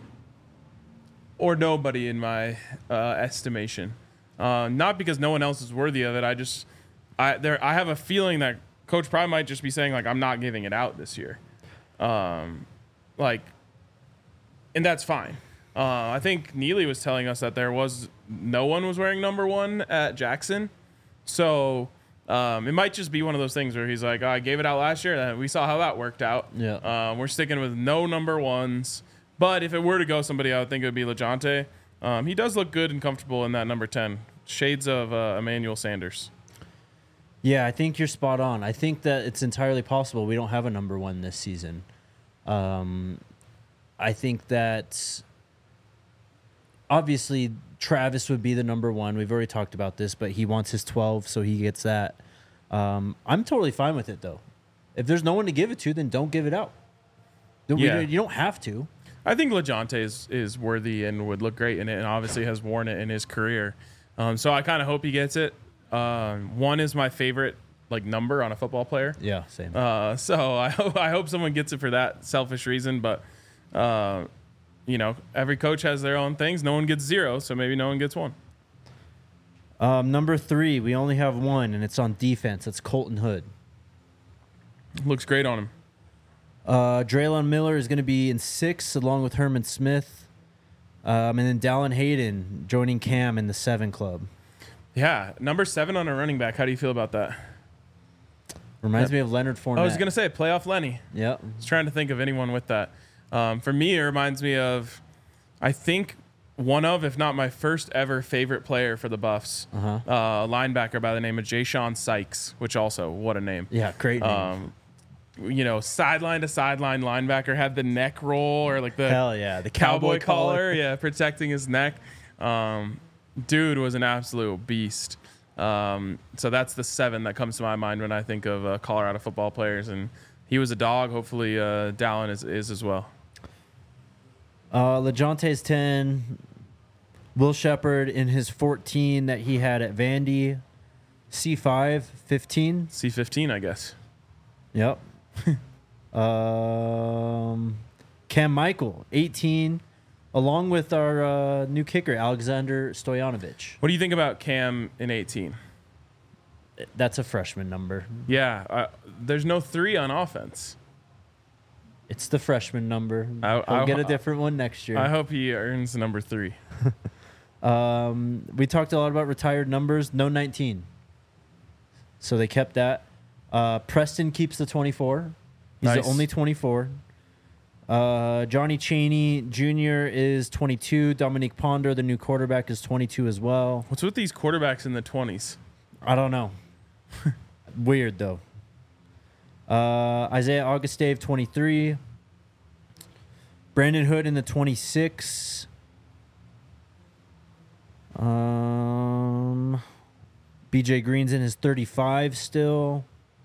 or nobody in my uh, estimation. Uh, not because no one else is worthy of it. I just, I there, I have a feeling that Coach probably might just be saying like, I'm not giving it out this year, um, like, and that's fine. Uh, I think Neely was telling us that there was no one was wearing number one at Jackson, so um, it might just be one of those things where he's like, oh, I gave it out last year, and we saw how that worked out. Yeah. Um, we're sticking with no number ones. But if it were to go somebody, I would think it would be LeJohntay. Um, he does look good and comfortable in that number ten. Shades of uh, Emmanuel Sanders. Yeah, I think you're spot on. I think that it's entirely possible we don't have a number one this season. Um, I think that obviously Travis would be the number one. We've already talked about this, but he wants his twelve, so he gets that. Um, I'm totally fine with it, though. If there's no one to give it to, then don't give it out. We- Yeah. You don't have to. I think LeJohntay is, is worthy and would look great in it, and obviously has worn it in his career. Um, so I kind of hope he gets it. Um, one is my favorite like number on a football player. Yeah, same. Uh, so I hope I hope someone gets it for that selfish reason. But uh, you know, every coach has their own things. No one gets zero, so maybe no one gets one. Um, number three, we only have one, and it's on defense. It's Colton Hood. Looks great on him. Uh, Draylon Miller is going to be in six, along with Herman Smith. Um, and then Dallin Hayden joining Cam in the seven club. Yeah, number seven on a running back. How do you feel about that? Reminds Yep. me of Leonard Fournette. I was gonna say playoff Lenny. Yep. I was trying to think of anyone with that. Um, for me, it reminds me of, I think one of, if not my first ever favorite player for the Buffs, Uh-huh. uh, a linebacker by the name of Jay Sean Sykes, which also what a name. Yeah, great name. Um, you know, sideline to sideline linebacker, had the neck roll or like the Hell yeah, the cowboy, cowboy, collar, yeah, protecting his neck. Um, dude was an absolute beast. Um, so that's the seven that comes to my mind when I think of uh, Colorado football players, and he was a dog. Hopefully, uh, Dallin is, is as well. Uh, LeJohntay's ten. Will Shepard in his fourteen that he had at Vandy. C five, fifteen. C fifteen, I guess. Yep. um, Cam Michael, eighteen, along with our uh, new kicker, Alexander Stoyanovich. What do you think about Cam in eighteen? That's a freshman number. Yeah, uh, there's no three on offense. It's the freshman number. I- I'll I- get a different one next year. I hope he earns number three. Um, we talked a lot about retired numbers. No nineteen. So they kept that. Uh, Preston keeps the twenty-four. He's Nice. the only twenty-four. Uh, Johnny Chaney Junior is twenty-two. Dominique Ponder, the new quarterback, is twenty-two as well. What's with these quarterbacks in the twenties? I don't know. Weird, though. Uh, Isaiah Augustave, twenty-three. Brandon Hood in the twenty-six. Um, B J Green's in his thirty-five still.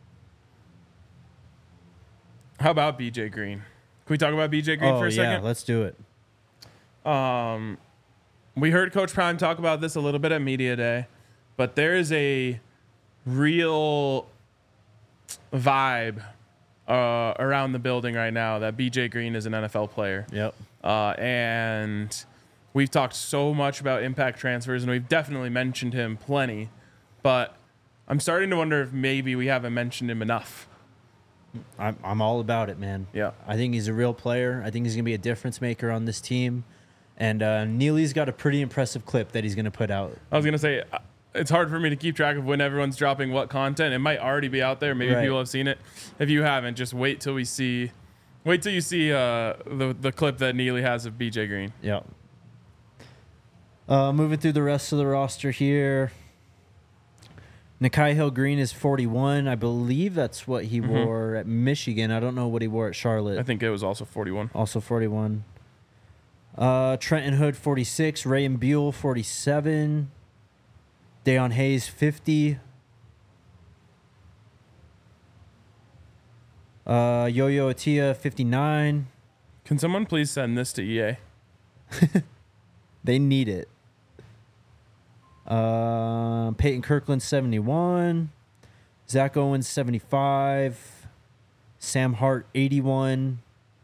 How about B J Green? Can we talk about B J Green Oh, for a yeah, second? let's do it. Um, we heard Coach Prime talk about this a little bit at Media Day, but there is a real vibe uh, around the building right now that B J Green is an N F L player. Yep. Uh, and we've talked so much about impact transfers, and we've definitely mentioned him plenty, but I'm starting to wonder if maybe we haven't mentioned him enough. I'm, I'm all about it, man. Yeah. I think he's a real player. I think he's going to be a difference maker on this team. And uh, Neely's got a pretty impressive clip that he's going to put out. I was going to say, uh, it's hard for me to keep track of when everyone's dropping what content. It might already be out there. Maybe Right. people have seen it. If you haven't, just wait till we see, wait till you see uh, the, the clip that Neely has of B J Green. Yep. Uh, moving through the rest of the roster here. Nakai Hill Green is forty-one. I believe that's what he Mm-hmm. wore at Michigan. I don't know what he wore at Charlotte. I think it was also forty-one. Also forty-one. Uh, Trenton Hood, forty-six. Ray and Buell, forty-seven. Deion Hayes, fifty. Uh, Yo-Yo Atia, fifty-nine. Can someone please send this to E A? They need it. Uh, Peyton Kirkland, seventy-one. Zach Owens, seventy-five. Sam Hart, eighty-one.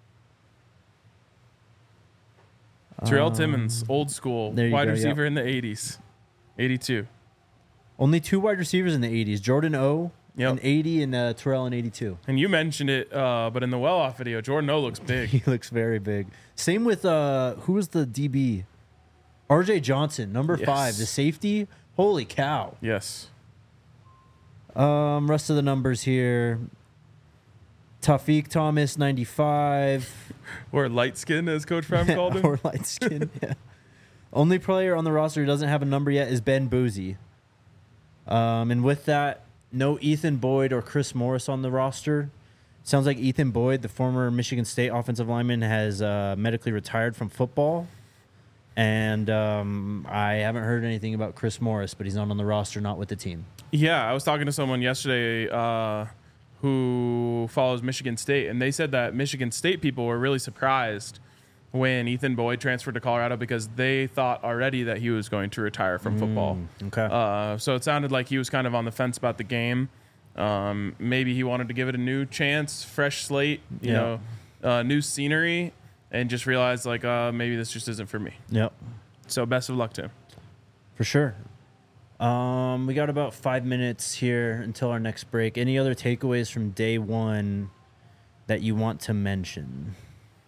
Terrell Um, Timmons, old school, there you wide go, receiver in the eighties. eighty-two. Only two wide receivers in the eighties. Jordan O Yep. in eighty and uh, Terrell in eighty-two. And you mentioned it, uh, but in the well-off video, Jordan O looks big. He looks very big. Same with, uh, who was the D B? R J Johnson, number Yes. five, the safety. Holy cow. Yes. Um, rest of the numbers here. Tafiq Thomas, ninety-five. Or light skin, as Coach Prime called him. Or light skin, yeah. Only player on the roster who doesn't have a number yet is Ben Boozy. Um, and with that, no Ethan Boyd or Chris Morris on the roster. Sounds like Ethan Boyd, the former Michigan State offensive lineman, has uh, medically retired from football. And um, I haven't heard anything about Chris Morris, but he's not on the roster, not with the team. Yeah, I was talking to someone yesterday uh, who follows Michigan State, and they said that Michigan State people were really surprised when Ethan Boyd transferred to Colorado because they thought already that he was going to retire from football. Okay. Uh, so it sounded like he was kind of on the fence about the game. Um, maybe he wanted to give it a new chance, fresh slate, you Yeah. know, uh, new scenery, and just realized like uh, maybe this just isn't for me. Yep. So best of luck to him. For sure. Um, we got about five minutes here until our next break. Any other takeaways from day one that you want to mention?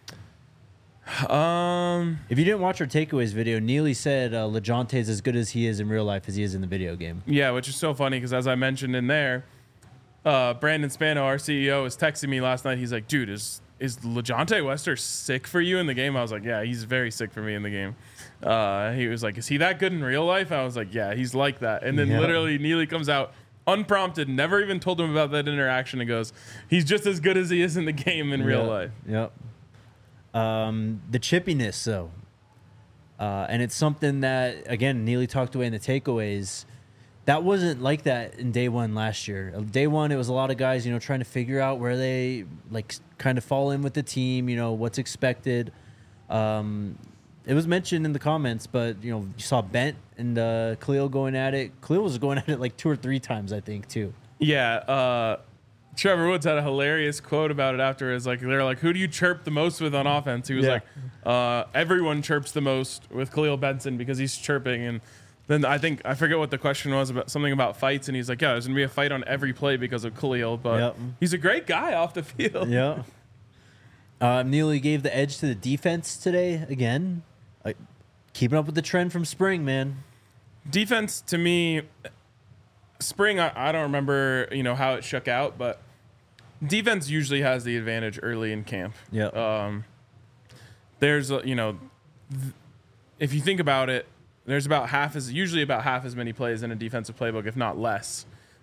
Um, If you didn't watch our takeaways video, Neely said uh, LeJontay is as good as he is in real life as he is in the video game. yeah, which is so funny because as I mentioned in there, uh, Brandon Spano, our C E O, was texting me last night. He's like, dude, is is LeJontay Wester sick for you in the game? I was like, yeah, he's very sick for me in the game. Uh, he was like, is he that good in real life? I was like, yeah, he's like that. And then Yeah. literally Neely comes out unprompted, never even told him about that interaction, and goes, he's just as good as he is in the game in real Yep. life. Yep. Um, the chippiness, though. Uh, and it's something that, again, Neely talked away in the takeaways. That wasn't like that in day one last year. Day one, it was a lot of guys, you know, trying to figure out where they, like, kind of fall in with the team, you know, what's expected. Um, it was mentioned in the comments, but, you know, you saw Bent and uh, Khalil going at it. Khalil was going at it like two or three times, I think, too. Yeah, uh, Trevor Woods had a hilarious quote about it afterwards. Like they're like, "Who do you chirp the most with on offense?" He was Yeah. like, uh, "Everyone chirps the most with Khalil Benson because he's chirping." And then I think I forget what the question was about, something about fights, and he's like, "Yeah, there's gonna be a fight on every play because of Khalil, but Yep. he's a great guy off the field." Yeah. Uh, Neely gave the edge to the defense today again. Like, keeping up with the trend from spring, man. Defense to me, spring I, I don't remember you know how it shook out, but defense usually has the advantage early in camp. Yeah. Um, there's a, you know, th- if you think about it, there's about half as usually about half as many plays in a defensive playbook, if not less.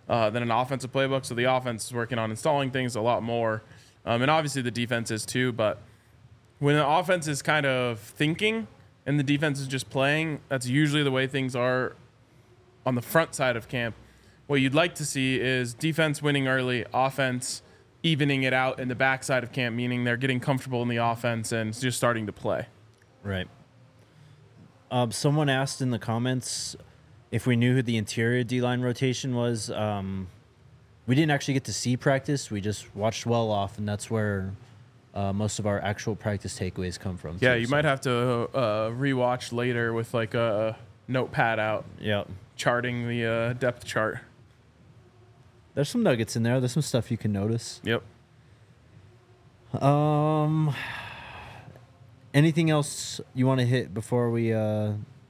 uh, than an offensive playbook. So the offense is working on installing things a lot more. Um, and obviously the defense is too. But when the offense is kind of thinking and the defense is just playing, that's usually the way things are on the front side of camp. What you'd like to see is defense winning early, offense evening it out in the backside of camp, meaning they're getting comfortable in the offense and just starting to play. Right. Um, someone asked in the comments if we knew who the interior D-line rotation was. Um, we didn't actually get to see practice. We just watched well off, and that's where uh, most of our actual practice takeaways come from. Yeah, too, you so. might have to uh, rewatch later with like a notepad out, Yeah. charting the uh, depth chart. There's some nuggets in there. There's some stuff you can notice. Yep. Um, anything else you want to hit before we uh,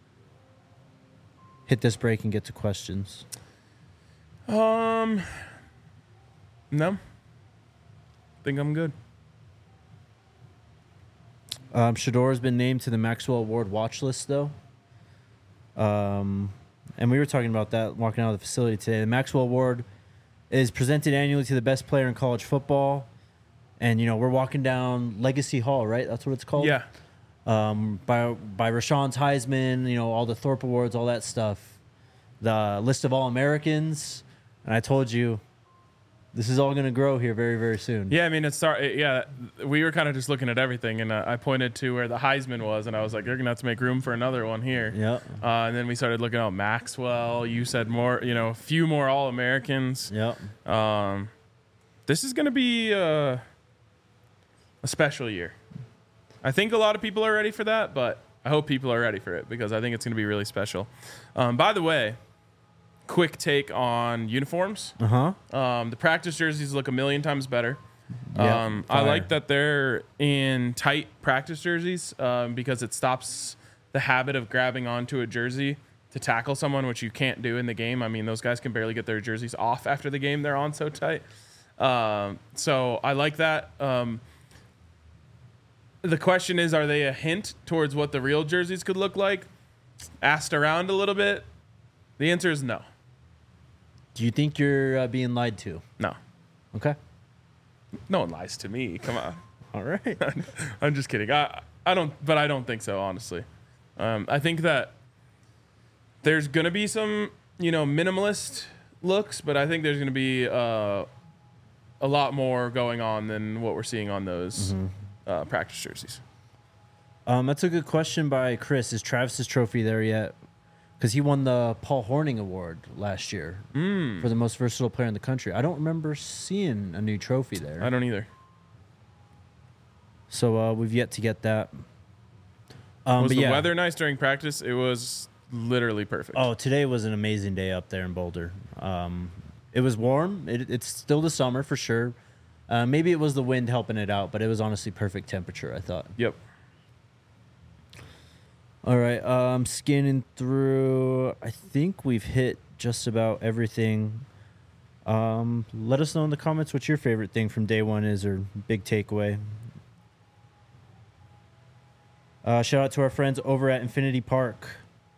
hit this break and get to questions? Um, no. Think I'm good. Um, Shador has been named to the Maxwell Award watch list, though. Um, and we were talking about that walking out of the facility today. The Maxwell Award is presented annually to the best player in college football. And, you know, we're walking down Legacy Hall, right? That's what it's called? Yeah. Um, by by Rashawn's Heisman, you know, all the Thorpe Awards, all that stuff. The list of All-Americans. And I told you, this is all going to grow here very, very soon. Yeah, I mean, it's start. Yeah, we were kind of just looking at everything, and uh, I pointed to where the Heisman was, and I was like, "You're gonna have to make room for another one here." Yep. Uh, and then we started looking at Maxwell. You said more, you know, a few more All Americans. Yep. Um, this is gonna be uh, a special year. I think a lot of people are ready for that, but I hope people are ready for it because I think it's gonna be really special. Um, by the way. Quick take on uniforms. Uh-huh. Um, the practice jerseys look a million times better. Yeah, um, I fire. like that they're in tight practice jerseys um, because it stops the habit of grabbing onto a jersey to tackle someone, which you can't do in the game. I mean, those guys can barely get their jerseys off after the game. They're on so tight. Um, so I like that. Um, the question is, are they a hint towards what the real jerseys could look like? Asked around a little bit. The answer is no. Do you think you're uh, being lied to? No. Okay. No one lies to me. Come on. All right. I'm just kidding. I I don't, but I don't think so. Honestly, um, I think that there's gonna be some, you know, minimalist looks, but I think there's gonna be uh, a lot more going on than what we're seeing on those Mm-hmm. uh, practice jerseys. Um, that's a good question by Chris. Is Travis's trophy there yet? Because he won the Paul Horning Award last year Mm. for the most versatile player in the country. I don't remember seeing a new trophy there. I don't either. So uh, we've yet to get that. Um, Was but the yeah. weather nice during practice? It was literally perfect. Oh, today was an amazing day up there in Boulder. Um, it was warm. It, it's still the summer for sure. Uh, maybe it was the wind helping it out, but it was honestly perfect temperature, I thought. Yep. All right, um, scanning through. I think we've hit just about everything. Um, let us know in the comments what your favorite thing from day one is or big takeaway. Uh, shout out to our friends over at Infinity Park.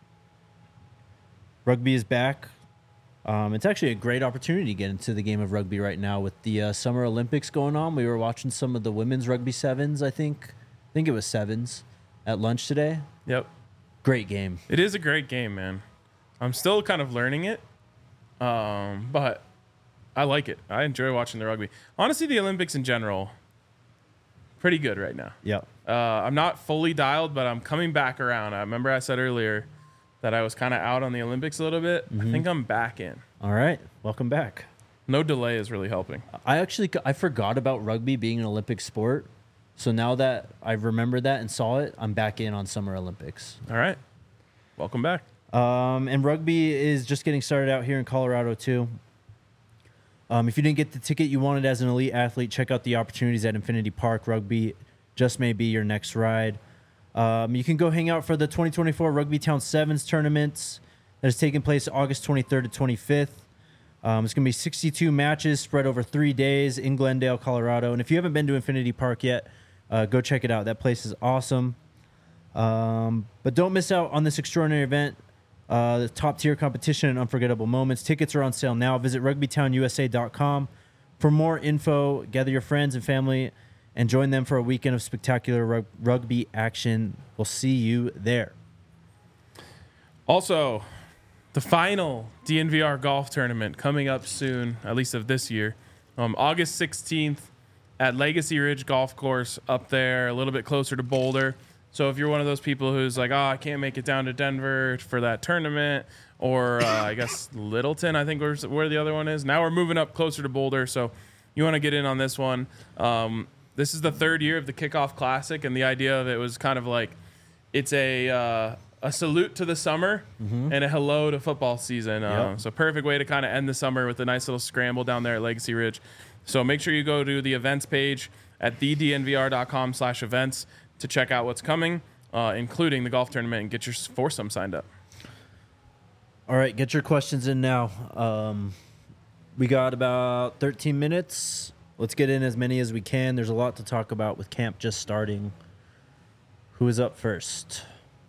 Rugby is back. Um, it's actually a great opportunity to get into the game of rugby right now with the uh, Summer Olympics going on. We were watching some of the women's rugby sevens, I think. I think it was sevens at lunch today. Yep. Great game. It is a great game, man. I'm still kind of learning it, um, but I like it. I enjoy watching the rugby. Honestly, the Olympics in general, pretty good right now. Yep. Uh, I'm not fully dialed, but I'm coming back around. I remember I said earlier that I was kind of out on the Olympics a little bit. I think I'm back in. All right. Welcome back. No delay is really helping. I actually I forgot about rugby being an Olympic sport. So now that I remembered that and saw it, I'm back in on Summer Olympics. All right. Welcome back. Um, and rugby is just getting started out here in Colorado, too. Um, if you didn't get the ticket you wanted as an elite athlete, check out the opportunities at Infinity Park. Rugby just may be your next ride. Um, you can go hang out for the twenty twenty-four Rugby Town Sevens tournaments that is taking place August twenty-third to twenty-fifth. Um, it's going to be sixty-two matches spread over three days in Glendale, Colorado. And if you haven't been to Infinity Park yet, uh, go check it out. That place is awesome. Um, but don't miss out on this extraordinary event. Uh, the top tier competition and unforgettable moments. Tickets are on sale now. Visit rugby town u s a dot com for more info. Gather your friends and family and join them for a weekend of spectacular rug- rugby action. We'll see you there. Also, the final D N V R golf tournament coming up soon, at least of this year, um, August sixteenth at Legacy Ridge Golf Course up there, a little bit closer to Boulder. So if you're one of those people who's like, oh, I can't make it down to Denver for that tournament, or uh, I guess Littleton, I think where's, where the other one is. Now we're moving up closer to Boulder, so you want to get in on this one. Um, this is the third year of the Kickoff Classic, and the idea of it was kind of like it's a uh, a salute to the summer mm-hmm. and a hello to football season. Uh, yep. So perfect way to kind of end the summer with a nice little scramble down there at Legacy Ridge. So make sure you go to the events page at the d n v r dot com slash events to check out what's coming, uh, including the golf tournament, and get your foursome signed up. All right, get your questions in now. Um, we got about thirteen minutes. Let's get in as many as we can. There's a lot to talk about with camp just starting. Who is up first?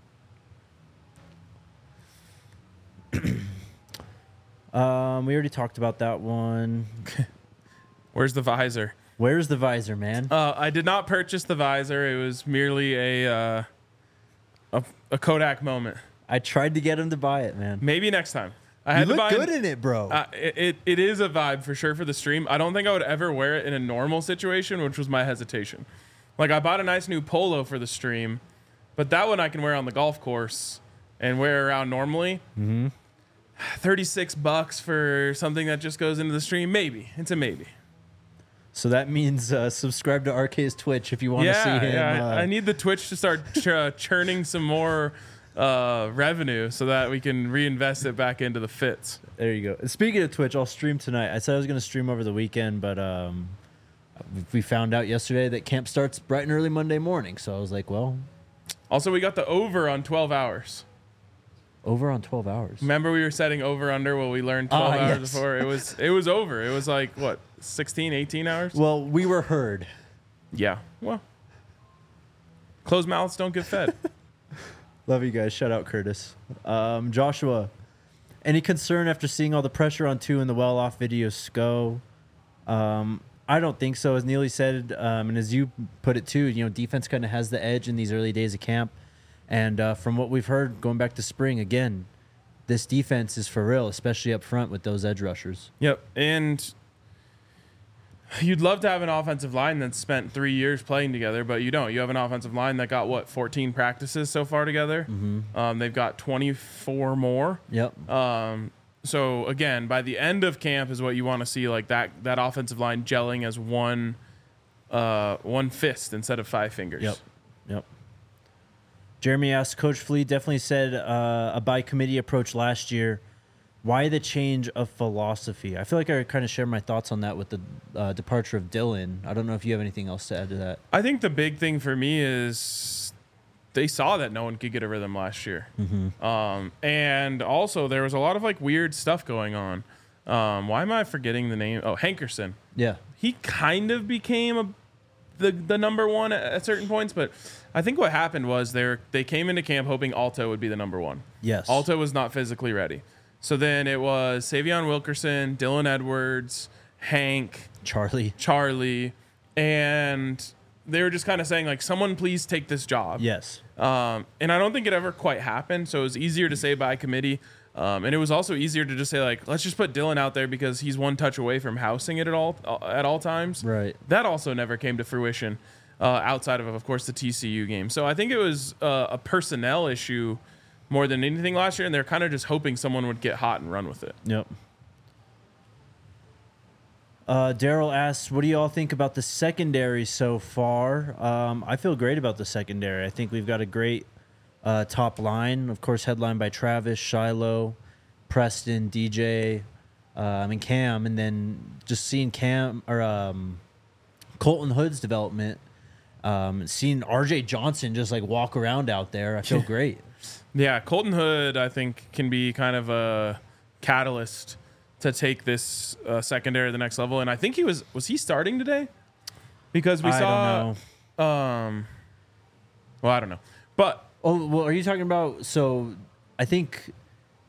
um, we already talked about that one. Where's the visor? Where's the visor, man? Uh, I did not purchase the visor. It was merely a, uh, a a Kodak moment. I tried to get him to buy it, man. Maybe next time. I you had look to buy good in it, bro. Uh, it, it it is a vibe for sure for the stream. I don't think I would ever wear it in a normal situation, which was my hesitation. Like, I bought a nice new polo for the stream, but that one I can wear on the golf course and wear around normally. Mm-hmm. thirty-six bucks for something that just goes into the stream. Maybe. It's a maybe. So that means uh, subscribe to R K's Twitch if you want to yeah, see him. Yeah, uh, I need the Twitch to start ch- uh, churning some more uh, revenue so that we can reinvest it back into the fits. There you go. Speaking of Twitch, I'll stream tonight. I said I was going to stream over the weekend, but um, we found out yesterday that camp starts bright and early Monday morning. So I was like, well. Also, we got the over on twelve hours. Over on twelve hours. Remember we were setting over under what we learned twelve ah, hours yes. before? It was it was over. It was like, what, sixteen, eighteen hours? Well, we were heard. Yeah. Well, closed mouths don't get fed. Love you guys. Shout out Curtis. Um, Joshua, any concern after seeing all the pressure on two in the well-off video SCO? Um, I don't think so. As Neely said, um, and as you put it too, you know, defense kind of has the edge in these early days of camp. And uh, from what we've heard going back to spring, again, this defense is for real, especially up front with those edge rushers. Yep. And you'd love to have an offensive line that's spent three years playing together, but you don't. You have an offensive line that got, what, fourteen practices so far together? Mm-hmm. Um, they've got twenty-four more. Yep. Um, so, again, by the end of camp is what you want to see, like that that offensive line gelling as one uh, one fist instead of five fingers. Yep. Yep. Jeremy asked, Coach Flea definitely said uh, a by committee approach last year. Why the change of philosophy? I feel like I kind of shared my thoughts on that with the uh, departure of Dylan. I don't know if you have anything else to add to that. I think the big thing for me is they saw that no one could get a rhythm last year. Mm-hmm. Um, and also there was a lot of like weird stuff going on. Um, why am I forgetting the name? Oh, Hankerson. Yeah. He kind of became a, the, the number one at, at certain points, but I think what happened was they they came into camp hoping Alto would be the number one. Yes. Alto was not physically ready. So then it was Savion Wilkerson, Dylan Edwards, Hank, Charlie. Charlie, and they were just kind of saying, like, someone please take this job. Yes. Um, and I don't think it ever quite happened, so it was easier to say by committee. Um, and it was also easier to just say, like, let's just put Dylan out there because he's one touch away from housing it at all at all times. Right. That also never came to fruition uh, outside of, of course, the T C U game. So I think it was uh, a personnel issue more than anything last year, and they're kind of just hoping someone would get hot and run with it. Yep. Uh, Daryl asks, what do you all think about the secondary so far? Um, I feel great about the secondary. I think we've got a great uh, top line. Of course, headlined by Travis, Shiloh, Preston, D J, um, and Cam. And then just seeing Cam or um, Colton Hood's development, um, seeing R J Johnson just like walk around out there, I feel great. Yeah, Colton Hood, I think, can be kind of a catalyst to take this uh, secondary to the next level. And I think he was was he starting today? Because we I saw don't know. um well, I don't know. But Oh, well, are you talking about, so I think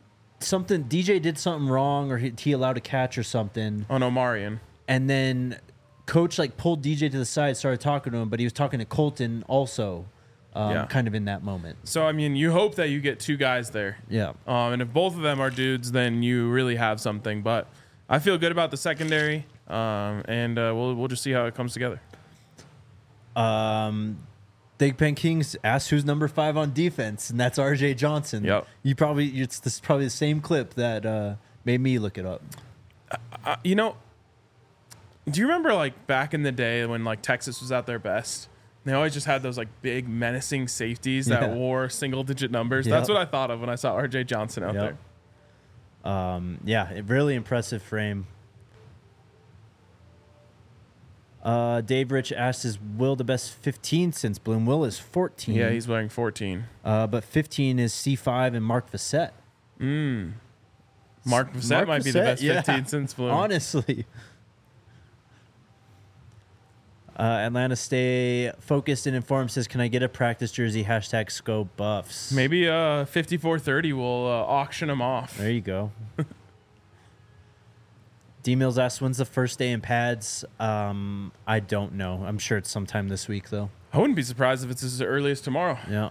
something D J did something wrong, or he, he allowed a catch or something, On Omarion. and then coach like pulled D J to the side, started talking to him, but he was talking to Colton also, um, Yeah. kind of in that moment. So, I mean, you hope that you get two guys there. Yeah. Um, and if both of them are dudes, then you really have something. But I feel good about the secondary, um, and uh, we'll we'll just see how it comes together. Um, Big Pen Kings asked who's number five on defense, and that's R J Johnson. Yep. You probably it's this is probably the same clip that uh, made me look it up. Uh, you know, do you remember like back in the day when like Texas was at their best? They always just had those like big menacing safeties that Yeah. wore single digit numbers. Yep. That's what I thought of when I saw R J Johnson out Yep. there. Um, yeah, a really impressive frame. Uh, Dave Rich asked, "Is Will the best fifteen since Bloom?" Will is fourteen. Yeah, he's wearing fourteen. Uh, but fifteen is C five and Mark Vassett. Mm. Mark Vassett Mark might be the Vassett, best yeah. fifteen since Bloom. Honestly. Uh, Atlanta Stay Focused and Informed says, "Can I get a practice jersey? Hashtag Scope Buffs." Maybe uh, fifty-four thirty will uh, auction them off. There you go. D Mills asks, "When's the first day in pads?" Um, I don't know. I'm sure it's sometime this week, though. I wouldn't be surprised if it's as early as tomorrow. Yeah.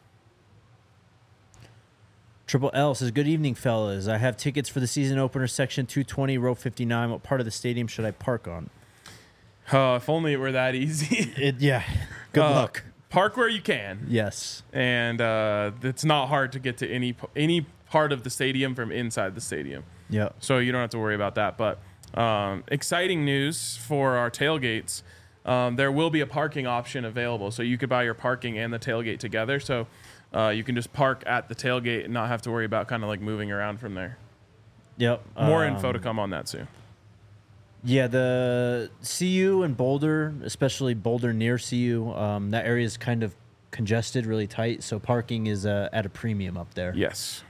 Triple L says, "Good evening, fellas. I have tickets for the season opener, section two twenty, row fifty-nine. What part of the stadium should I park on?" Oh, if only it were that easy. It, yeah. Good Uh, luck. Park where you can, Yes. and uh, it's not hard to get to any any part of the stadium from inside the stadium. Yep. So you don't have to worry about that. But um, exciting news for our tailgates. Um, there will be a parking option available. So you could buy your parking and the tailgate together. So uh, you can just park at the tailgate and not have to worry about kind of like moving around from there. Yep. More Um, info to come on that soon. Yeah, the C U and Boulder, especially Boulder near C U, um, that area is kind of congested, really tight. So parking is uh, at a premium up there. Yes.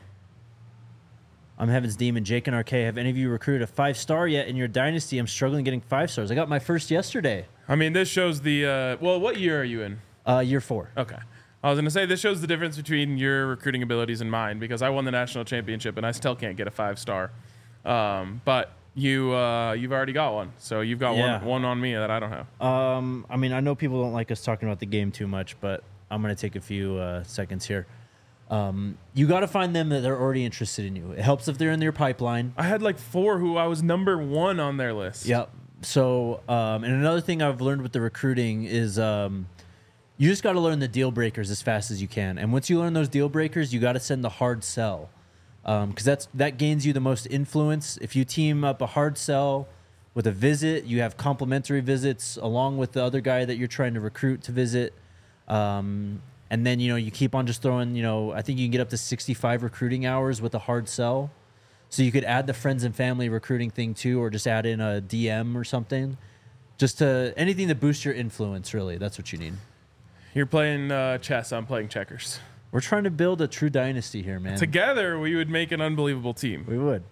I'm Heaven's Demon, Jake and R K. Have any of you recruited a five star yet in your dynasty? I'm struggling getting five stars. I got my first yesterday, I mean, this shows the, uh, well, what year are you in? uh, year four. Okay. I was going to say, this shows the difference between your recruiting abilities and mine, because I won the national championship and I still can't get a five star. Um, but you, uh, you've already got one. So you've got Yeah. one, one on me that I don't have. Um, I mean, I know people don't like us talking about the game too much, but I'm going to take a few uh, seconds here. Um, you got to find them that they're already interested in you. It helps if they're in your pipeline. I had like four who I was number one on their list. Yep. So, um, and another thing I've learned with the recruiting is um, you just got to learn the deal breakers as fast as you can. And once you learn those deal breakers, you got to send the hard sell, because um, that's that gains you the most influence. If you team up a hard sell with a visit, you have complimentary visits along with the other guy that you're trying to recruit to visit. Um, and then, you know, you keep on just throwing, you know, I think you can get up to sixty-five recruiting hours with a hard sell. So you could add the friends and family recruiting thing too, or just add in a D M or something. Just to anything to boost your influence, really. That's what you need. You're playing uh, chess. I'm playing checkers. We're trying to build a true dynasty here, man. Together, we would make an unbelievable team. We would.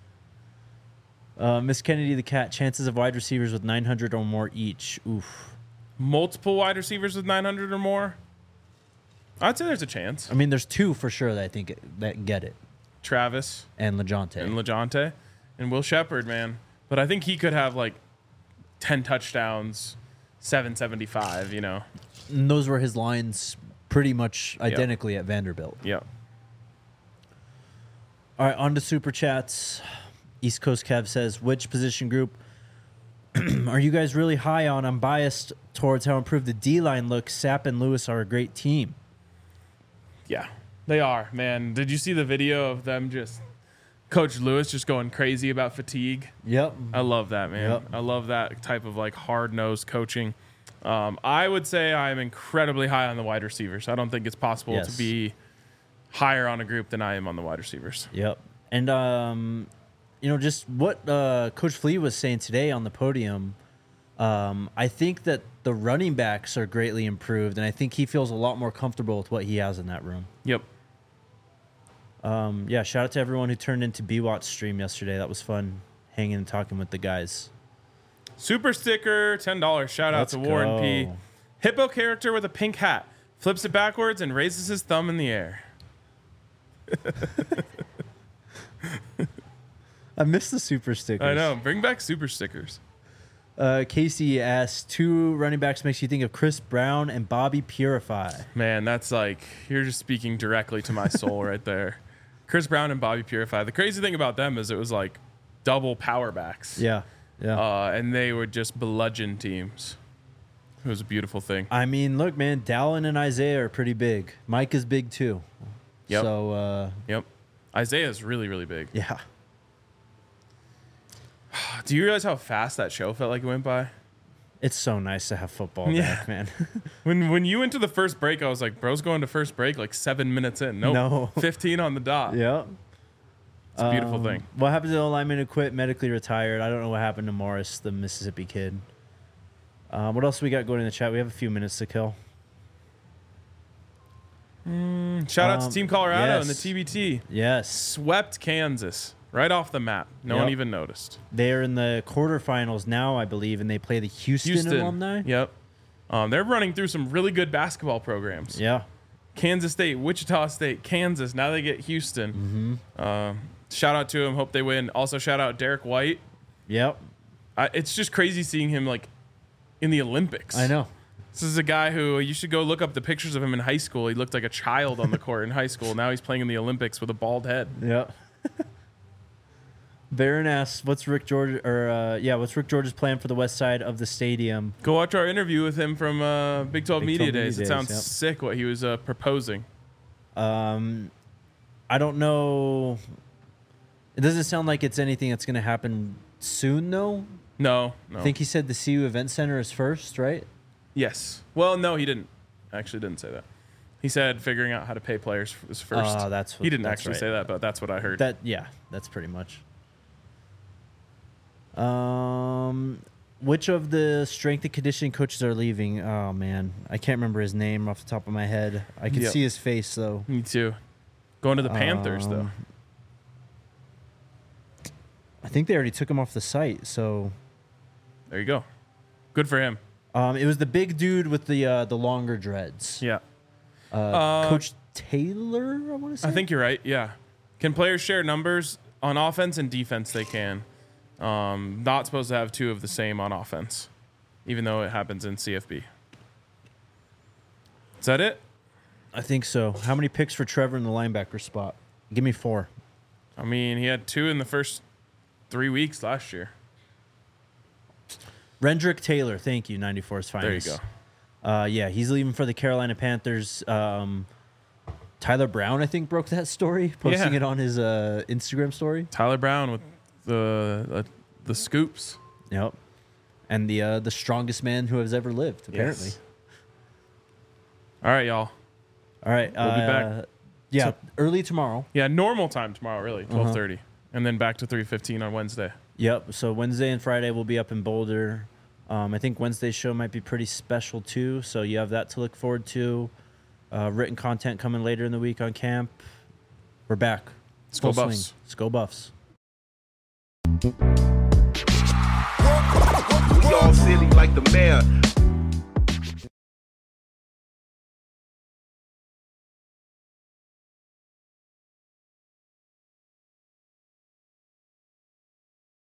Uh, Miss Kennedy the Cat, chances of wide receivers with nine hundred or more each. Oof. Multiple wide receivers with nine hundred or more? I'd say there's a chance. I mean, there's two for sure that I think that get it. Travis And LeJonte. and LeJonte and Will Shepard, man. But I think he could have like ten touchdowns, seven seventy-five, you know. And those were his lines pretty much identically at Vanderbilt. Yeah. All right, on to Super Chats. East Coast Kev says, which position group are you guys really high on? I'm biased towards how improved the D-line looks. Sapp and Lewis are a great team. Yeah. They are, man. Did you see the video of them just Coach Lewis just going crazy about fatigue? Yep. I love that, man. Yep. I love that type of like hard-nosed coaching. Um, I would say I'm incredibly high on the wide receivers. I don't think it's possible Yes. to be higher on a group than I am on the wide receivers. Yep. And, um, you know, just what uh, Coach Flea was saying today on the podium, um, I think that the running backs are greatly improved, and I think he feels a lot more comfortable with what he has in that room. Yep. Um, yeah, shout out to everyone who turned into B WAT's stream yesterday. That was fun hanging and talking with the guys. Super sticker, ten dollars. Shout out Let's to Warren P. go. Hippo character with a pink hat. Flips it backwards and raises his thumb in the air. I miss the super stickers. I know. Bring back super stickers. Uh, Casey asks, two running backs makes you think of Chris Brown and Bobby Purify. Man, that's like, you're just speaking directly to my soul right there. Chris Brown and Bobby Purify. The crazy thing about them is it was like double power backs. Yeah, yeah. Uh, and they would just bludgeon teams. It was a beautiful thing. I mean, look, man, Dallin and Isaiah are pretty big. Mike is big too. Yep. So, uh, Yep. Isaiah's really, really big. yeah. Do you realize how fast that show felt like it went by? It's so nice to have football Yeah. back, man. When when you went to the first break, I was like, bro's going to first break like seven minutes in. Nope. No. fifteen on the dot. yeah. It's a beautiful Um, thing. What happened to the lineman who quit, medically retired? I don't know what happened to Morris, the Mississippi kid. Uh, what else we got going in the chat? We have a few minutes to kill. Shout out um, to Team Colorado and the yes. T B T. Yes. Swept Kansas right off the map. No one Yep. even noticed. They're in the quarterfinals now, I believe, and they play the Houston, Houston. alumni. Yep. Um, they're running through some really good basketball programs. Yeah. Kansas State, Wichita State, Kansas. Now they get Houston. Mm-hmm. Um, shout out to them. Hope they win. Also, shout out Derek White. Yep. I, it's just crazy seeing him like in the Olympics. I know. This is a guy who you should go look up the pictures of him in high school. He looked like a child on the court in high school. Now he's playing in the Olympics with a bald head. Yep. Baron asks, "What's Rick George or uh, yeah, what's Rick George's plan for the west side of the stadium?" Go watch our interview with him from uh, Big twelve Big Media twelve Media Days. It Days, sounds yep. sick what he was uh, proposing. Um, I don't know. It doesn't sound like it's anything that's going to happen soon, though. No, no. I think he said the C U Event Center is first, right? Yes. Well, no, he didn't. Actually, didn't say that. He said figuring out how to pay players was first. Ah, that's what- he didn't that's actually right. say that, but that's what I heard. That yeah, that's pretty much. Um, which of the strength and conditioning coaches are leaving? Oh man, I can't remember his name off the top of my head. I can Yep. see his face though. Me too. Going to the Panthers though. Um, I think they already took him off the site. So There you go. Good for him. um, it was the big dude with the uh, the longer dreads. Yeah. Uh, Uh, Coach Taylor, I want to say. I think you're right. Yeah. Can players share numbers on offense and defense? They can. Um, not supposed to have two of the same on offense, even though it happens in C F B. Is that it? I think so. How many picks for Trevor in the linebacker spot? Give me four. I mean, he had two in the first three weeks last year. Rendrick Taylor, thank you, ninety-four's finest. There you go. Uh, yeah, he's leaving for the Carolina Panthers. Um, Tyler Brown, I think, broke that story, posting Yeah. it on his uh, Instagram story. Tyler Brown with the uh, the scoops. Yep. And the uh, the strongest man who has ever lived, apparently. Yes. All right, y'all. All right. We'll be back. uh, Yeah, So- early tomorrow. Yeah, normal time tomorrow, really, Uh-huh. twelve thirty, and then back to three fifteen on Wednesday. Yep. So Wednesday and Friday we'll be up in Boulder. Um, I think Wednesday's show might be pretty special too. So you have that to look forward to. Uh, written content coming later in the week on camp. We're back. Let's go Full Buffs. swing. Let's go Buffs. We all silly like the mayor.